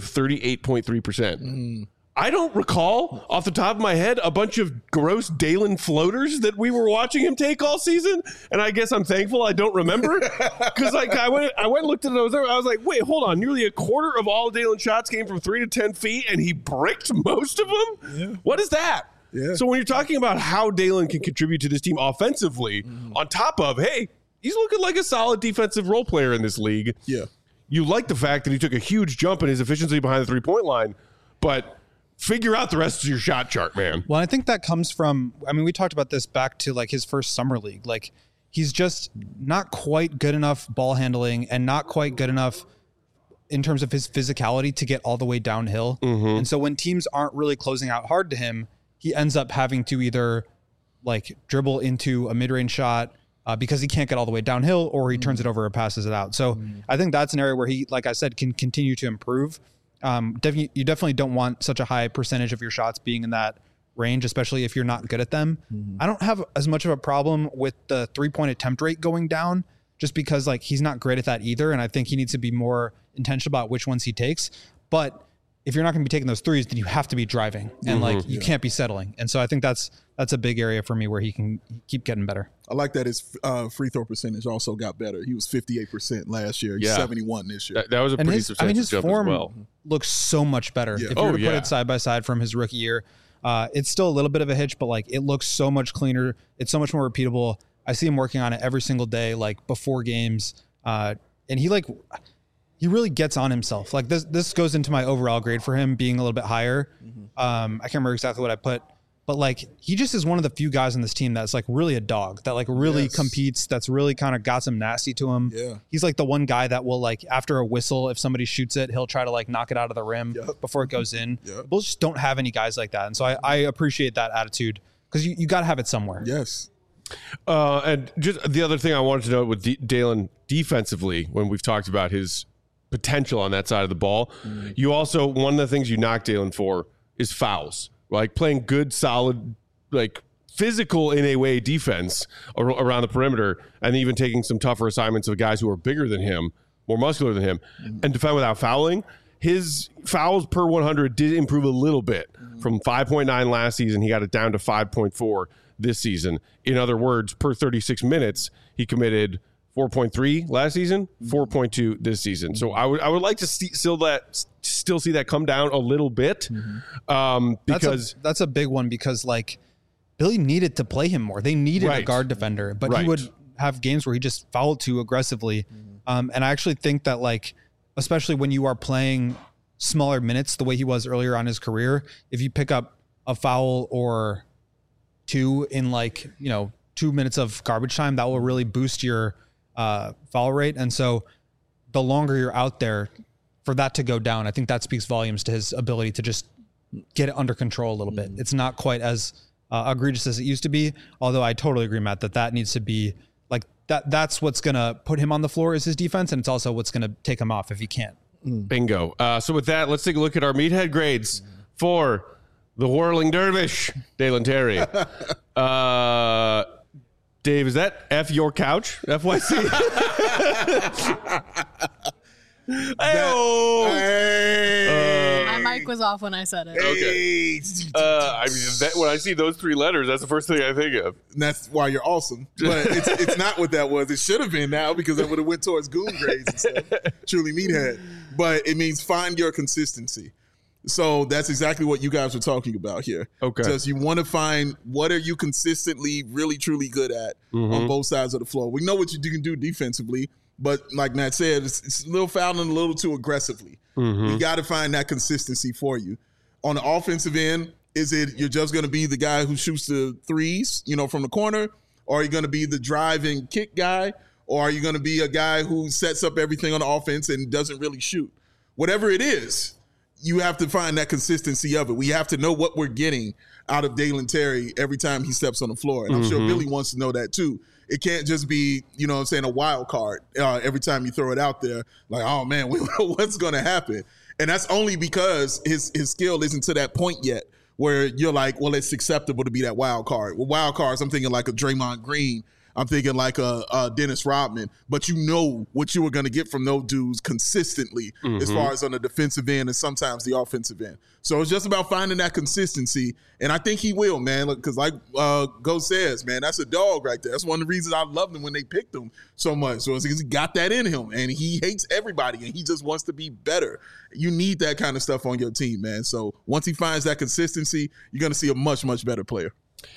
38.3%. I don't recall off the top of my head a bunch of gross Dalen floaters that we were watching him take all season, and I guess I'm thankful I don't remember because I went and looked at those. I was like, wait, hold on, nearly a quarter of all Dalen shots came from 3 to 10 feet, and he bricked most of them. Yeah. What is that? Yeah. So when you're talking about how Dalen can contribute to this team offensively, on top of, hey, he's looking like a solid defensive role player in this league. Yeah, you like the fact that he took a huge jump in his efficiency behind the three-point line, but figure out the rest of your shot chart, man. Well, I think that comes from, we talked about this back to like his first summer league. Like, he's just not quite good enough ball handling and not quite good enough in terms of his physicality to get all the way downhill. And so when teams aren't really closing out hard to him, he ends up having to either like dribble into a mid-range shot because he can't get all the way downhill, or he turns it over or passes it out. So I think that's an area where he, like I said, can continue to improve. You definitely don't want such a high percentage of your shots being in that range, especially if you're not good at them. I don't have as much of a problem with the three-point attempt rate going down, just because like he's not great at that either, and I think he needs to be more intentional about which ones he takes. But if you're not going to be taking those threes, then you have to be driving, and like you can't be settling. And so I think that's a big area for me where he can keep getting better. I like that his free throw percentage also got better. He was 58% last year. He's 71 this year. That was a pretty substantial his jump form as well. Looks so much better. Yeah. If you were to put it side by side from his rookie year, it's still a little bit of a hitch, but like it looks so much cleaner. It's so much more repeatable. I see him working on it every single day, like before games. And he really gets on himself. Like this goes into my overall grade for him being a little bit higher. I can't remember exactly what I put, but like he just is one of the few guys on this team that's like really a dog, that like really competes, that's really kind of got some nasty to him. Yeah. He's like the one guy that will like after a whistle, if somebody shoots it, he'll try to like knock it out of the rim before it goes in. Bulls just don't have any guys like that. And so I appreciate that attitude, because you got to have it somewhere. Yes. And just the other thing I wanted to note with Dalen defensively, when we've talked about his potential on that side of the ball, you also, one of the things you knock Dalen for is fouls, like playing good, solid, like physical in a way defense around the perimeter, and even taking some tougher assignments of guys who are bigger than him, more muscular than him, and defend without fouling. His fouls per 100 did improve a little bit from 5.9 last season. He got it down to 5.4 this season. In other words, per 36 minutes, he committed 4.3 last season, 4.2 this season. So I would like to still see that come down a little bit, because that's a big one, because like Billy needed to play him more. They needed a guard defender, but he would have games where he just fouled too aggressively. And I actually think that, like, especially when you are playing smaller minutes the way he was earlier on his career, if you pick up a foul or two in, like, 2 minutes of garbage time, that will really boost your foul rate. And so the longer you're out there, for that to go down, I think that speaks volumes to his ability to just get it under control a little bit. It's not quite as egregious as it used to be, although I totally agree, Matt, that needs to be like that's what's going to put him on the floor is his defense, and it's also what's going to take him off if he can't. Bingo. So with that, let's take a look at our meathead grades for the Whirling Dervish, Dalen Terry. Dave, is that F your couch? FYC? My mic was off when I said it. Okay. When I see those three letters, that's the first thing I think of. And that's why you're awesome. But it's not what that was. It should have been now because that would have went towards goon grades and stuff. Truly meathead. But it means find your consistency. So that's exactly what you guys were talking about here. Okay. Because you want to find what are you consistently really, truly good at on both sides of the floor. We know what you can do defensively. But like Matt said, it's a little fouling a little too aggressively. We got to find that consistency for you. On the offensive end, is it you're just going to be the guy who shoots the threes, from the corner? Or are you going to be the drive and kick guy? Or are you going to be a guy who sets up everything on the offense and doesn't really shoot? Whatever it is, you have to find that consistency of it. We have to know what we're getting out of Dalen Terry every time he steps on the floor. And I'm sure Billy wants to know that too. It can't just be, a wild card every time you throw it out there. Like, oh, man, we don't know what's going to happen. And that's only because his skill isn't to that point yet where you're like, well, it's acceptable to be that wild card. With wild cards, I'm thinking like a Draymond Green. I'm thinking like a Dennis Rodman. But you know what you were going to get from those dudes consistently as far as on the defensive end and sometimes the offensive end. So it's just about finding that consistency. And I think he will, man, because like Go says, man, that's a dog right there. That's one of the reasons I loved him when they picked him so much. So it's because he got that in him, and he hates everybody, and he just wants to be better. You need that kind of stuff on your team, man. So once he finds that consistency, you're going to see a much, much better player.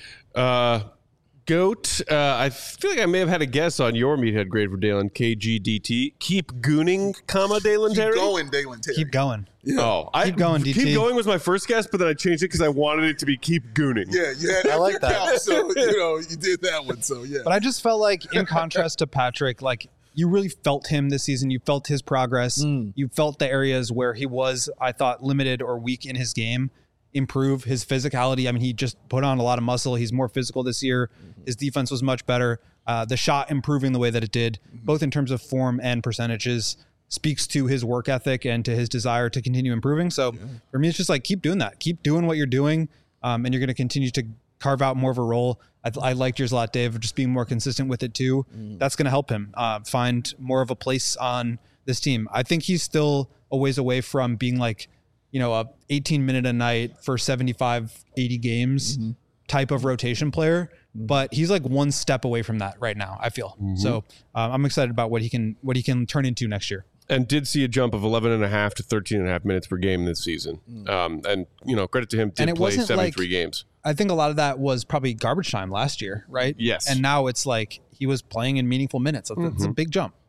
Goat, I feel like I may have had a guess on your meathead grade for Dalen, KGDT. Keep gooning, Dalen Terry? Keep going, Dalen Terry. Keep going. Yeah. Oh, keep going, DT. Keep going was my first guess, but then I changed it because I wanted it to be keep gooning. Yeah, you had I like that. Count, so, you did that one, so yeah. But I just felt like, in contrast to Patrick, like, you really felt him this season. You felt his progress. You felt the areas where he was, I thought, limited or weak in his game improve. His physicality, I mean, he just put on a lot of muscle. He's more physical this year. His defense was much better. The shot improving the way that it did, both in terms of form and percentages, speaks to his work ethic and to his desire to continue improving. So for me, it's just like, keep doing that. Keep doing what you're doing, and you're going to continue to carve out more of a role. I liked yours a lot, Dave, just being more consistent with it too. That's going to help him find more of a place on this team. I think he's still a ways away from being like, a 18 minute a night for 75, 80 games type of rotation player. But he's like one step away from that right now, I feel. So I'm excited about what he can turn into next year. And did see a jump of 11.5 to 13.5 minutes per game this season. And, credit to him, did play 73 games. I think a lot of that was probably garbage time last year, right? Yes. And now it's like he was playing in meaningful minutes. It's a big jump.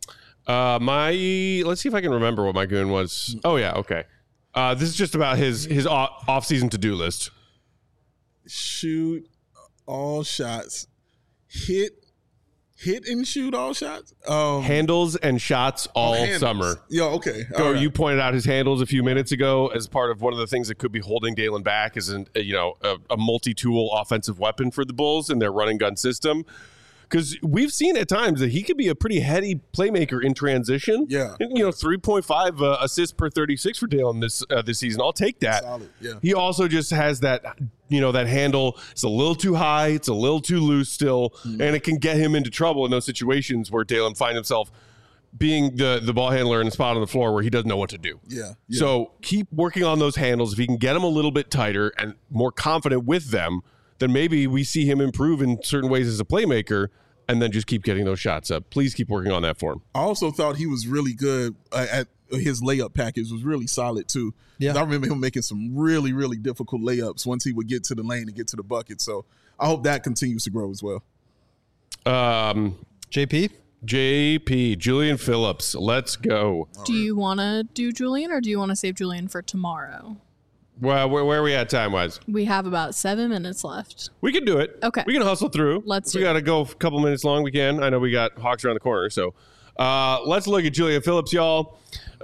Let's see if I can remember what my goon was. Oh, yeah, okay. This is just about his off-season to-do list. Shoot all shots. Hit and shoot all shots. Handles and shots all summer. Yeah, okay. Go. Right. You pointed out his handles a few minutes ago as part of one of the things that could be holding Dalen back is a multi-tool offensive weapon for the Bulls in their running gun system. Because we've seen at times that he could be a pretty heady playmaker in transition. Yeah. 3.5 assists per 36 for Dalen this season. I'll take that. Solid. Yeah. He also just has that, that handle. It's a little too high. It's a little too loose still. And it can get him into trouble in those situations where Dalen finds himself being the ball handler in a spot on the floor where he doesn't know what to do. Yeah. So keep working on those handles. If he can get them a little bit tighter and more confident with them, then maybe we see him improve in certain ways as a playmaker, and then just keep getting those shots up. Please keep working on that for him. I also thought he was really good at his layup package was really solid too. Yeah, I remember him making some really, really difficult layups once he would get to the lane and get to the bucket. So I hope that continues to grow as well. JP, Julian Phillips. Let's go. Do you want to do Julian, or do you want to save Julian for tomorrow? Well, where are we at time-wise? We have about 7 minutes left. We can do it. Okay. We can hustle through. Let's do it. We got to go a couple minutes long. We can. I know we got Hawks around the corner. So let's look at Julian Phillips, y'all.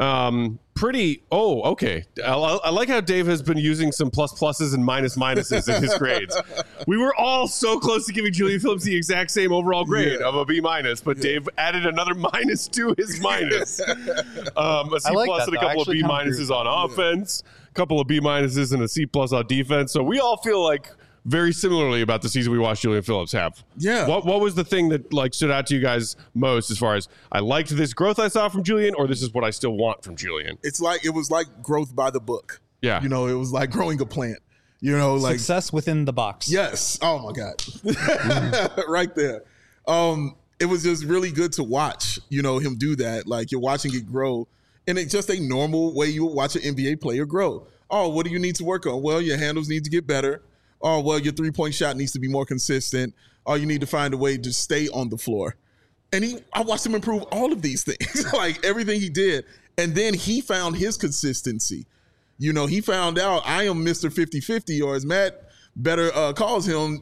Okay. I like how Dave has been using some pluses and minuses in his grades. We were all so close to giving Julian Phillips the exact same overall grade of a B-, but Dave added another minus to his minus. A C+ and a couple of B- on offense, a couple of B- and a C+ on defense. So we all feel like very similarly about the season we watched Julian Phillips have. Yeah. What was the thing that like stood out to you guys most as far as I liked this growth I saw from Julian, or this is what I still want from Julian? It was like growth by the book. Yeah. It was like growing a plant. Like success within the box. Yes. Oh my God. Right there. It was just really good to watch, him do that. Like you're watching it grow. And it's just a normal way you would watch an NBA player grow. Oh, what do you need to work on? Well, your handles need to get better. Oh, well, your three-point shot needs to be more consistent. Oh, you need to find a way to stay on the floor. And I watched him improve all of these things, like everything he did. And then he found his consistency. He found out I am Mr. 50-50, or as Matt better calls him,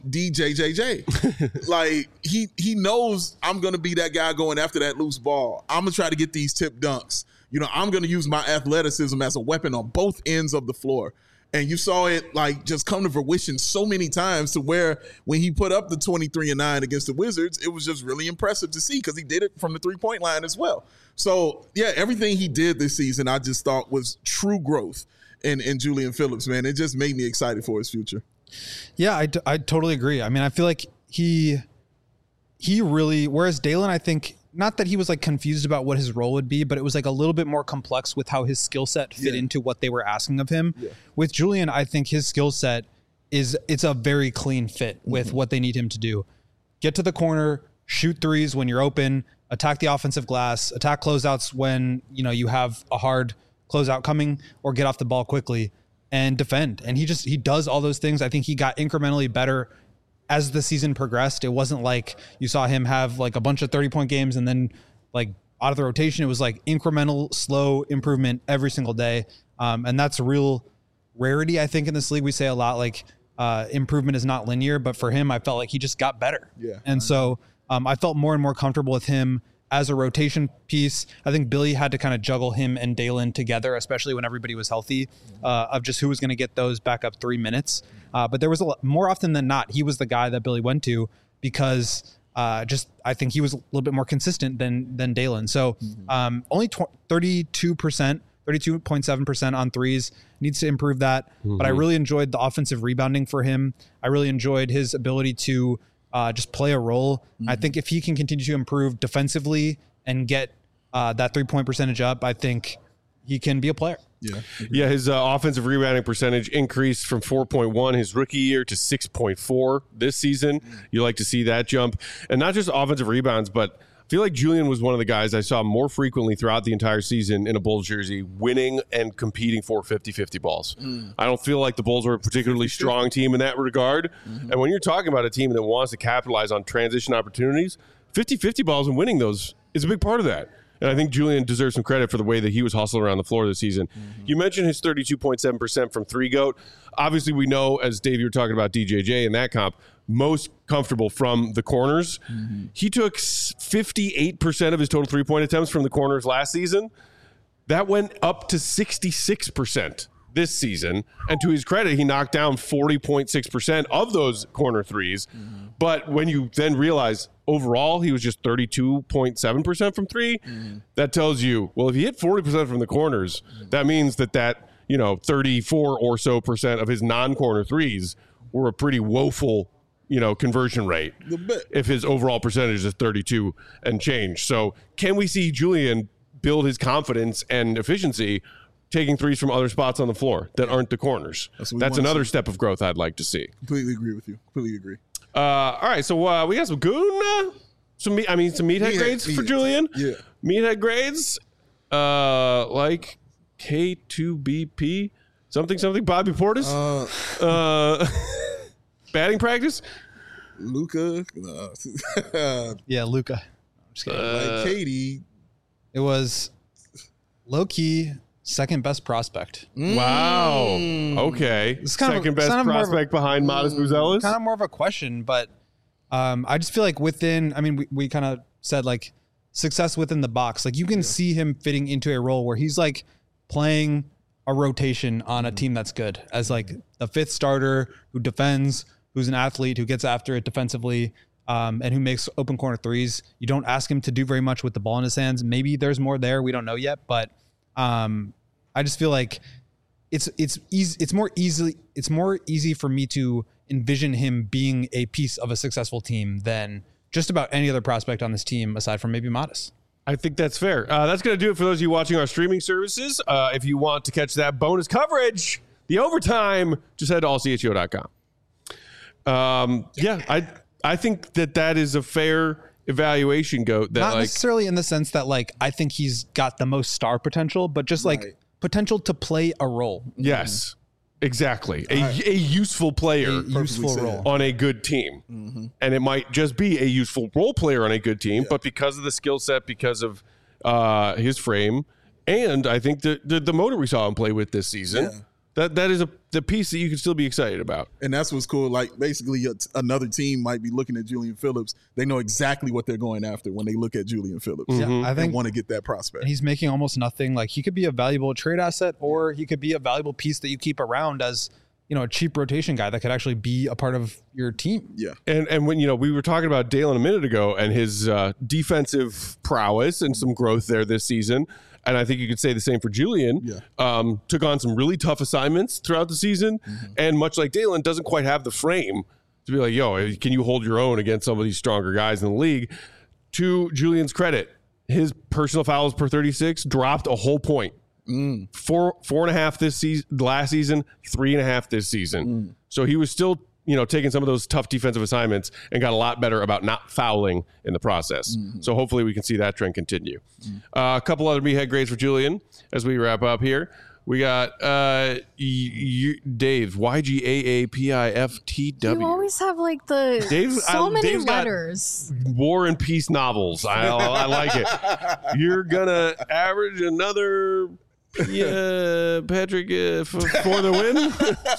DJJJ. Like he knows I'm going to be that guy going after that loose ball. I'm going to try to get these tip dunks. I'm going to use my athleticism as a weapon on both ends of the floor. And you saw it like just come to fruition so many times to where when he put up the 23-9 against the Wizards, it was just really impressive to see because he did it from the 3-point line as well. So, yeah, everything he did this season I just thought was true growth in Julian Phillips, man. It just made me excited for his future. Yeah, I totally agree. I mean, I feel like he really, whereas Dalen, I think, not that he was like confused about what his role would be, but it was like a little bit more complex with how his skill set fit into what they were asking of him. Yeah. With Julian, I think his skill set it's a very clean fit with what they need him to do. Get to the corner, shoot threes when you're open, attack the offensive glass, attack closeouts when, you have a hard closeout coming, or get off the ball quickly and defend. And he does all those things. I think he got incrementally better as the season progressed. It wasn't like you saw him have like a bunch of 30-point games and then like out of the rotation. It was like incremental, slow improvement every single day. And that's a real rarity, I think, in this league. We say a lot like improvement is not linear, but for him, I felt like he just got better. Yeah. And so I felt more and more comfortable with him as a rotation piece. I think Billy had to kind of juggle him and Dalen together, especially when everybody was healthy, of just who was going to get those backup 3 minutes. But there was a lot, more often than not, he was the guy that Billy went to because I think he was a little bit more consistent than Dalen. So only 32.7% on threes, needs to improve that. But I really enjoyed the offensive rebounding for him. I really enjoyed his ability to just play a role. I think if he can continue to improve defensively and get that 3-point percentage up, I think he can be a player. Yeah, his offensive rebounding percentage increased from 4.1 his rookie year to 6.4 this season. You like to see that jump. And not just offensive rebounds, but I feel like Julian was one of the guys I saw more frequently throughout the entire season in a Bulls jersey, winning and competing for 50-50 balls. I don't feel like the Bulls are a particularly strong team in that regard. And when you're talking about a team that wants to capitalize on transition opportunities, 50-50 balls and winning those is a big part of that. And I think Julian deserves some credit for the way that he was hustling around the floor this season. You mentioned his 32.7% from three goat. Obviously, we know, as Dave, you were talking about DJJ in that comp, most comfortable from the corners. He took 58% of his total three-point attempts from the corners last season. That went up to 66% this season. And to his credit, he knocked down 40.6% of those corner threes. But when you then realize overall he was just 32.7% from three, that tells you, well, if he hit 40% from the corners, that means that 34 or so percent of his non-corner threes were a pretty woeful conversion rate if his overall percentage is 32 and change. So can we see Julian build his confidence and efficiency taking threes from other spots on the floor that aren't the corners? That's another step of growth I'd like to see. Completely agree with you. Completely agree. All right, so we got some goon, some meathead grades for Julian. Yeah, meathead grades. like K2BP, something, Bobby Portis, batting practice. Luca. Yeah, Luca. I'm just kidding. Like Katie. It was low-key second best prospect. Wow. Okay. It's kind Second of, best kind of prospect behind Modest Buzelis. Kind of more of a question, but I just feel like within, I mean, we kind of said like success within the box. Like you can see him fitting into a role where he's like playing a rotation on a team that's good as like the fifth starter who defends, who's an athlete, who gets after it defensively, and who makes open corner threes. You don't ask him to do very much with the ball in his hands. Maybe there's more there. We don't know yet, but I just feel like it's easy. It's more easy for me to envision him being a piece of a successful team than just about any other prospect on this team aside from maybe Modest. I think that's fair. That's going to do it for those of you watching our streaming services. If you want to catch that bonus coverage, the overtime, just head to allcho.com. I think that is a fair evaluation, Goat. That not necessarily in the sense that like I think he's got the most star potential, but just like potential to play a role. Yes, exactly. A useful player, role on a good team, and it might just be a useful role player on a good team, but because of the skill set, because of his frame, and I think the motor we saw him play with this season. That is the piece that you can still be excited about. And that's what's cool. Like, basically, another team might be looking at Julian Phillips. They know exactly what they're going after when they look at Julian Phillips. Yeah, I think want to get that prospect. And he's making almost nothing. Like, he could be a valuable trade asset, or he could be a valuable piece that you keep around as, you know, a cheap rotation guy that could actually be a part of your team. Yeah. And when, we were talking about Dalen a minute ago and his defensive prowess and some growth there this season. And I think you could say the same for Julian. Yeah. Took on some really tough assignments throughout the season. And much like Dalen, doesn't quite have the frame to be like, yo, can you hold your own against some of these stronger guys in the league? To Julian's credit, his personal fouls per 36 dropped a whole point. 4.5 this season, last season, 3.5 this season. So he was still, taking some of those tough defensive assignments and got a lot better about not fouling in the process. So hopefully we can see that trend continue. A couple other meathead grades for Julian as we wrap up here. We got Dave's YGAAPIFTW. You always have like the many letters. War and Peace novels. I like it. You're gonna average another Patrick for the win.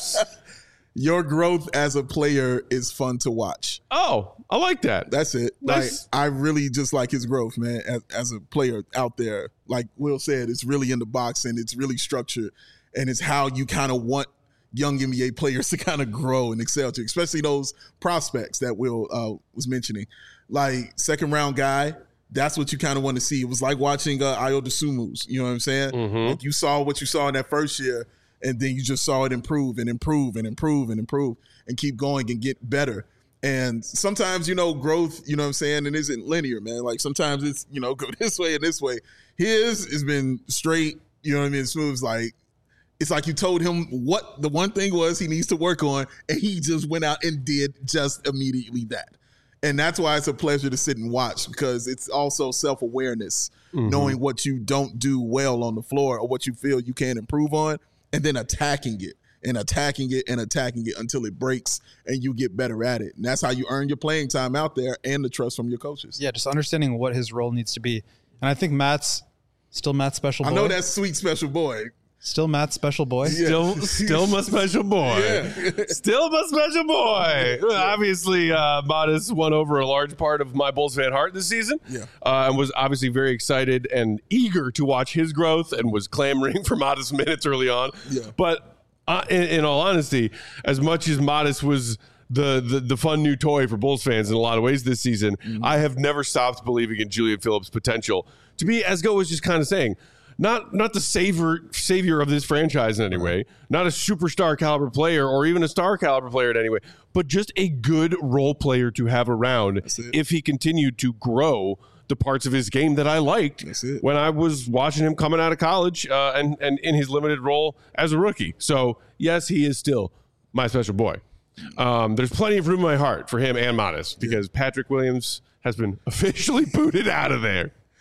Your growth as a player is fun to watch. Oh, I like that. That's it. Nice. Like, I really just like his growth, man, as a player out there. Like Will said, it's really in the box and it's really structured. And it's how you kind of want young NBA players to kind of grow and excel to, especially those prospects that Will was mentioning. Like, second round guy, that's what you kind of want to see. It was like watching Ayo Dosunmu's, you know what I'm saying? Like, you saw what you saw in that first year, and then you just saw it improve and improve and improve and improve and keep going and get better. And sometimes, growth, you know what I'm saying, it isn't linear, man. Like, sometimes it's, go this way and this way. His has been straight, you know what I mean? Smooth. It's like you told him what the one thing was he needs to work on, and he just went out and did just immediately that. And that's why it's a pleasure to sit and watch, because it's also self-awareness, knowing what you don't do well on the floor or what you feel you can improve on, and then attacking it and attacking it and attacking it until it breaks and you get better at it. And that's how you earn your playing time out there and the trust from your coaches. Yeah, just understanding what his role needs to be. And I think Matt's still Matt's special boy. I know that sweet special boy. Still Matt's special boy. Yeah. Still my special boy. Yeah. Still my special boy. Obviously, Modest won over a large part of my Bulls fan heart this season. Yeah. And was obviously very excited and eager to watch his growth and was clamoring for Modest minutes early on. Yeah. But in all honesty, as much as Modest was the fun new toy for Bulls fans in a lot of ways this season, I have never stopped believing in Julian Phillips' potential to be, as Go was just kind of saying, not the savior of this franchise in any way, not a superstar caliber player or even a star caliber player in any way, but just a good role player to have around if he continued to grow the parts of his game that I liked when I was watching him coming out of college and in his limited role as a rookie. So, yes, he is still my special boy. There's plenty of room in my heart for him and Modest because Patrick Williams has been officially booted out of there.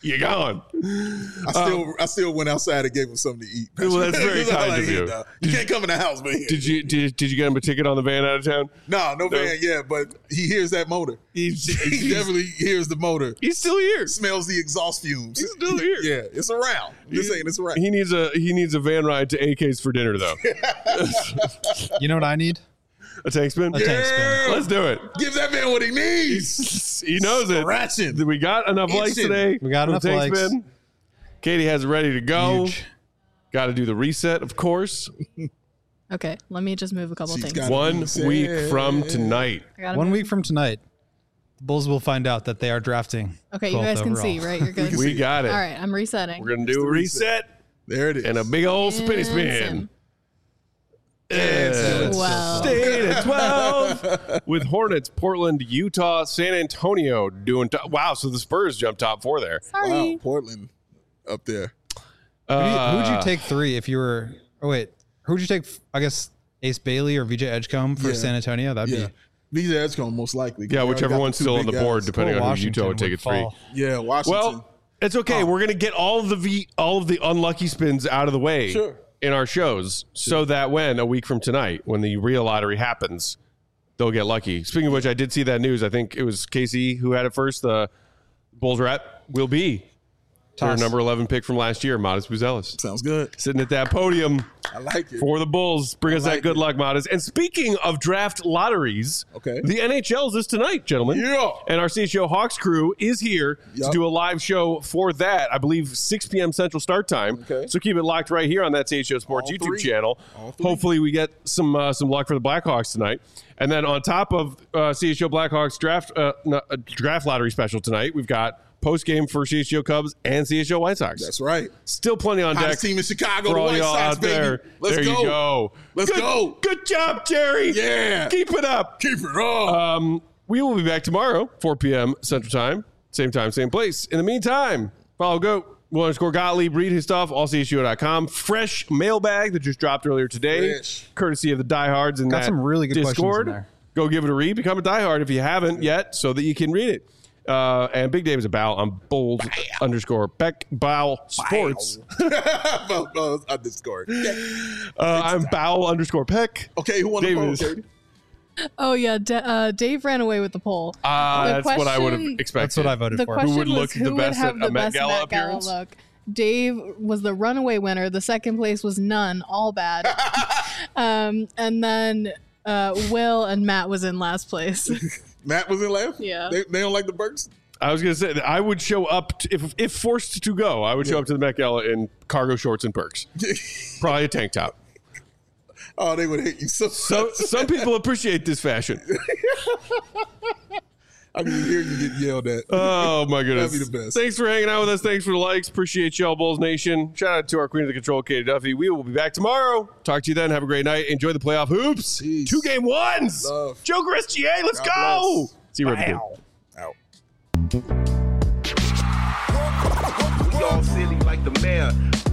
You're gone. I still went outside and gave him something to eat. Well, that's very kind of you. You can't come in the house, man. Did you get him a ticket on the van out of town? No van yet, but he hears that motor. He definitely hears the motor. He's still here. Smells the exhaust fumes. He's still here. Yeah, it's around. I'm just saying it's around. He needs a van ride to AK's for dinner though. You know what I need? A tank spin? Tank spin. Let's do it. Give that man what he needs. He knows it. Scratching. We got enough likes today. We got enough tank likes. Spin. Katie has it ready to go. Huge. Got to do the reset, of course. Okay, let me just move a couple things. 1 week from tonight. 1 week from tonight, the Bulls will find out that they are drafting. Okay, you guys can see, right? You're good. We got it. All right, I'm resetting. We're going to do a reset. There it is. And a big old spinny spin. Wow. Stayed at 12 with Hornets, Portland, Utah, San Antonio doing wow, so the Spurs jumped top 4 there. Sorry. Wow, Portland up there. Who'd you take 3 if you were? Oh wait, who'd you take? I guess Ace Bailey or VJ Edgecombe for San Antonio. That'd be VJ Edgecombe most likely. Yeah, whichever one's still on the board, depending on who Utah would take at 3. Yeah, Washington. Well, it's okay. We're gonna get all of the unlucky spins out of the way in our shows, so that when a week from tonight, when the real lottery happens, they'll get lucky. Speaking of which, I did see that news. I think it was KC who had it first. The Bulls rep will be their number 11 pick from last year, Modest Buzelis. Sounds good. Sitting at that podium. I like it. For the Bulls. Bring us that good luck, Modest. And speaking of draft lotteries, the NHL's is tonight, gentlemen. Yeah. And our CHO Hawks crew is here to do a live show for that. I believe 6 p.m. Central start time. Okay. So keep it locked right here on that CHO Sports YouTube channel. Hopefully we get some luck for the Blackhawks tonight. And then on top of CHO Blackhawks draft lottery special tonight, we've got post-game for CHGO Cubs and CHGO White Sox. That's right. Still plenty on deck. Hottest team in Chicago, for the all White y'all Sox, out baby. there. Let's there go. You go. Let's go. Good job, Jerry. Yeah. Keep it up. Keep it up. We will be back tomorrow, 4 p.m. Central Time. Same time, same place. In the meantime, follow _Gottlieb. Read his stuff, allchgo.com. Fresh mailbag that just dropped earlier today. Courtesy of the diehards in Got some really good Discord. questions in there. Go give it a read. Become a diehard if you haven't yet so that you can read it. And Big Dave is a bow on bold _Beck Bow Sports. Underscore. I'm bow _Peck. Okay, who won the poll, Katie? Oh yeah, Dave ran away with the poll. That's what I would have expected. That's what I voted for. Question Who would was look the best have at the a Met best Gala Met Gala appearance? look. Dave was the runaway winner. The second place was none, all bad. And then Will and Matt was in last place. Matt was in last? Yeah. They don't like the Burks? I was going to say that I would show up, if forced to go, I would show up to the Met Gala in cargo shorts and perks. Probably a tank top. Oh, they would hate you so much. Some people appreciate this fashion. I can hear you get yelled at. Oh, my goodness. That'd be the best. Thanks for hanging out with us. Thanks for the likes. Appreciate y'all, Bulls Nation. Shout out to our queen of the control, Katie Duffy. We will be back tomorrow. Talk to you then. Have a great night. Enjoy the playoff hoops. Peace. 2 game ones. Love. Joker SGA. Let's God go. bless. See you right Out. We all silly like the mayor.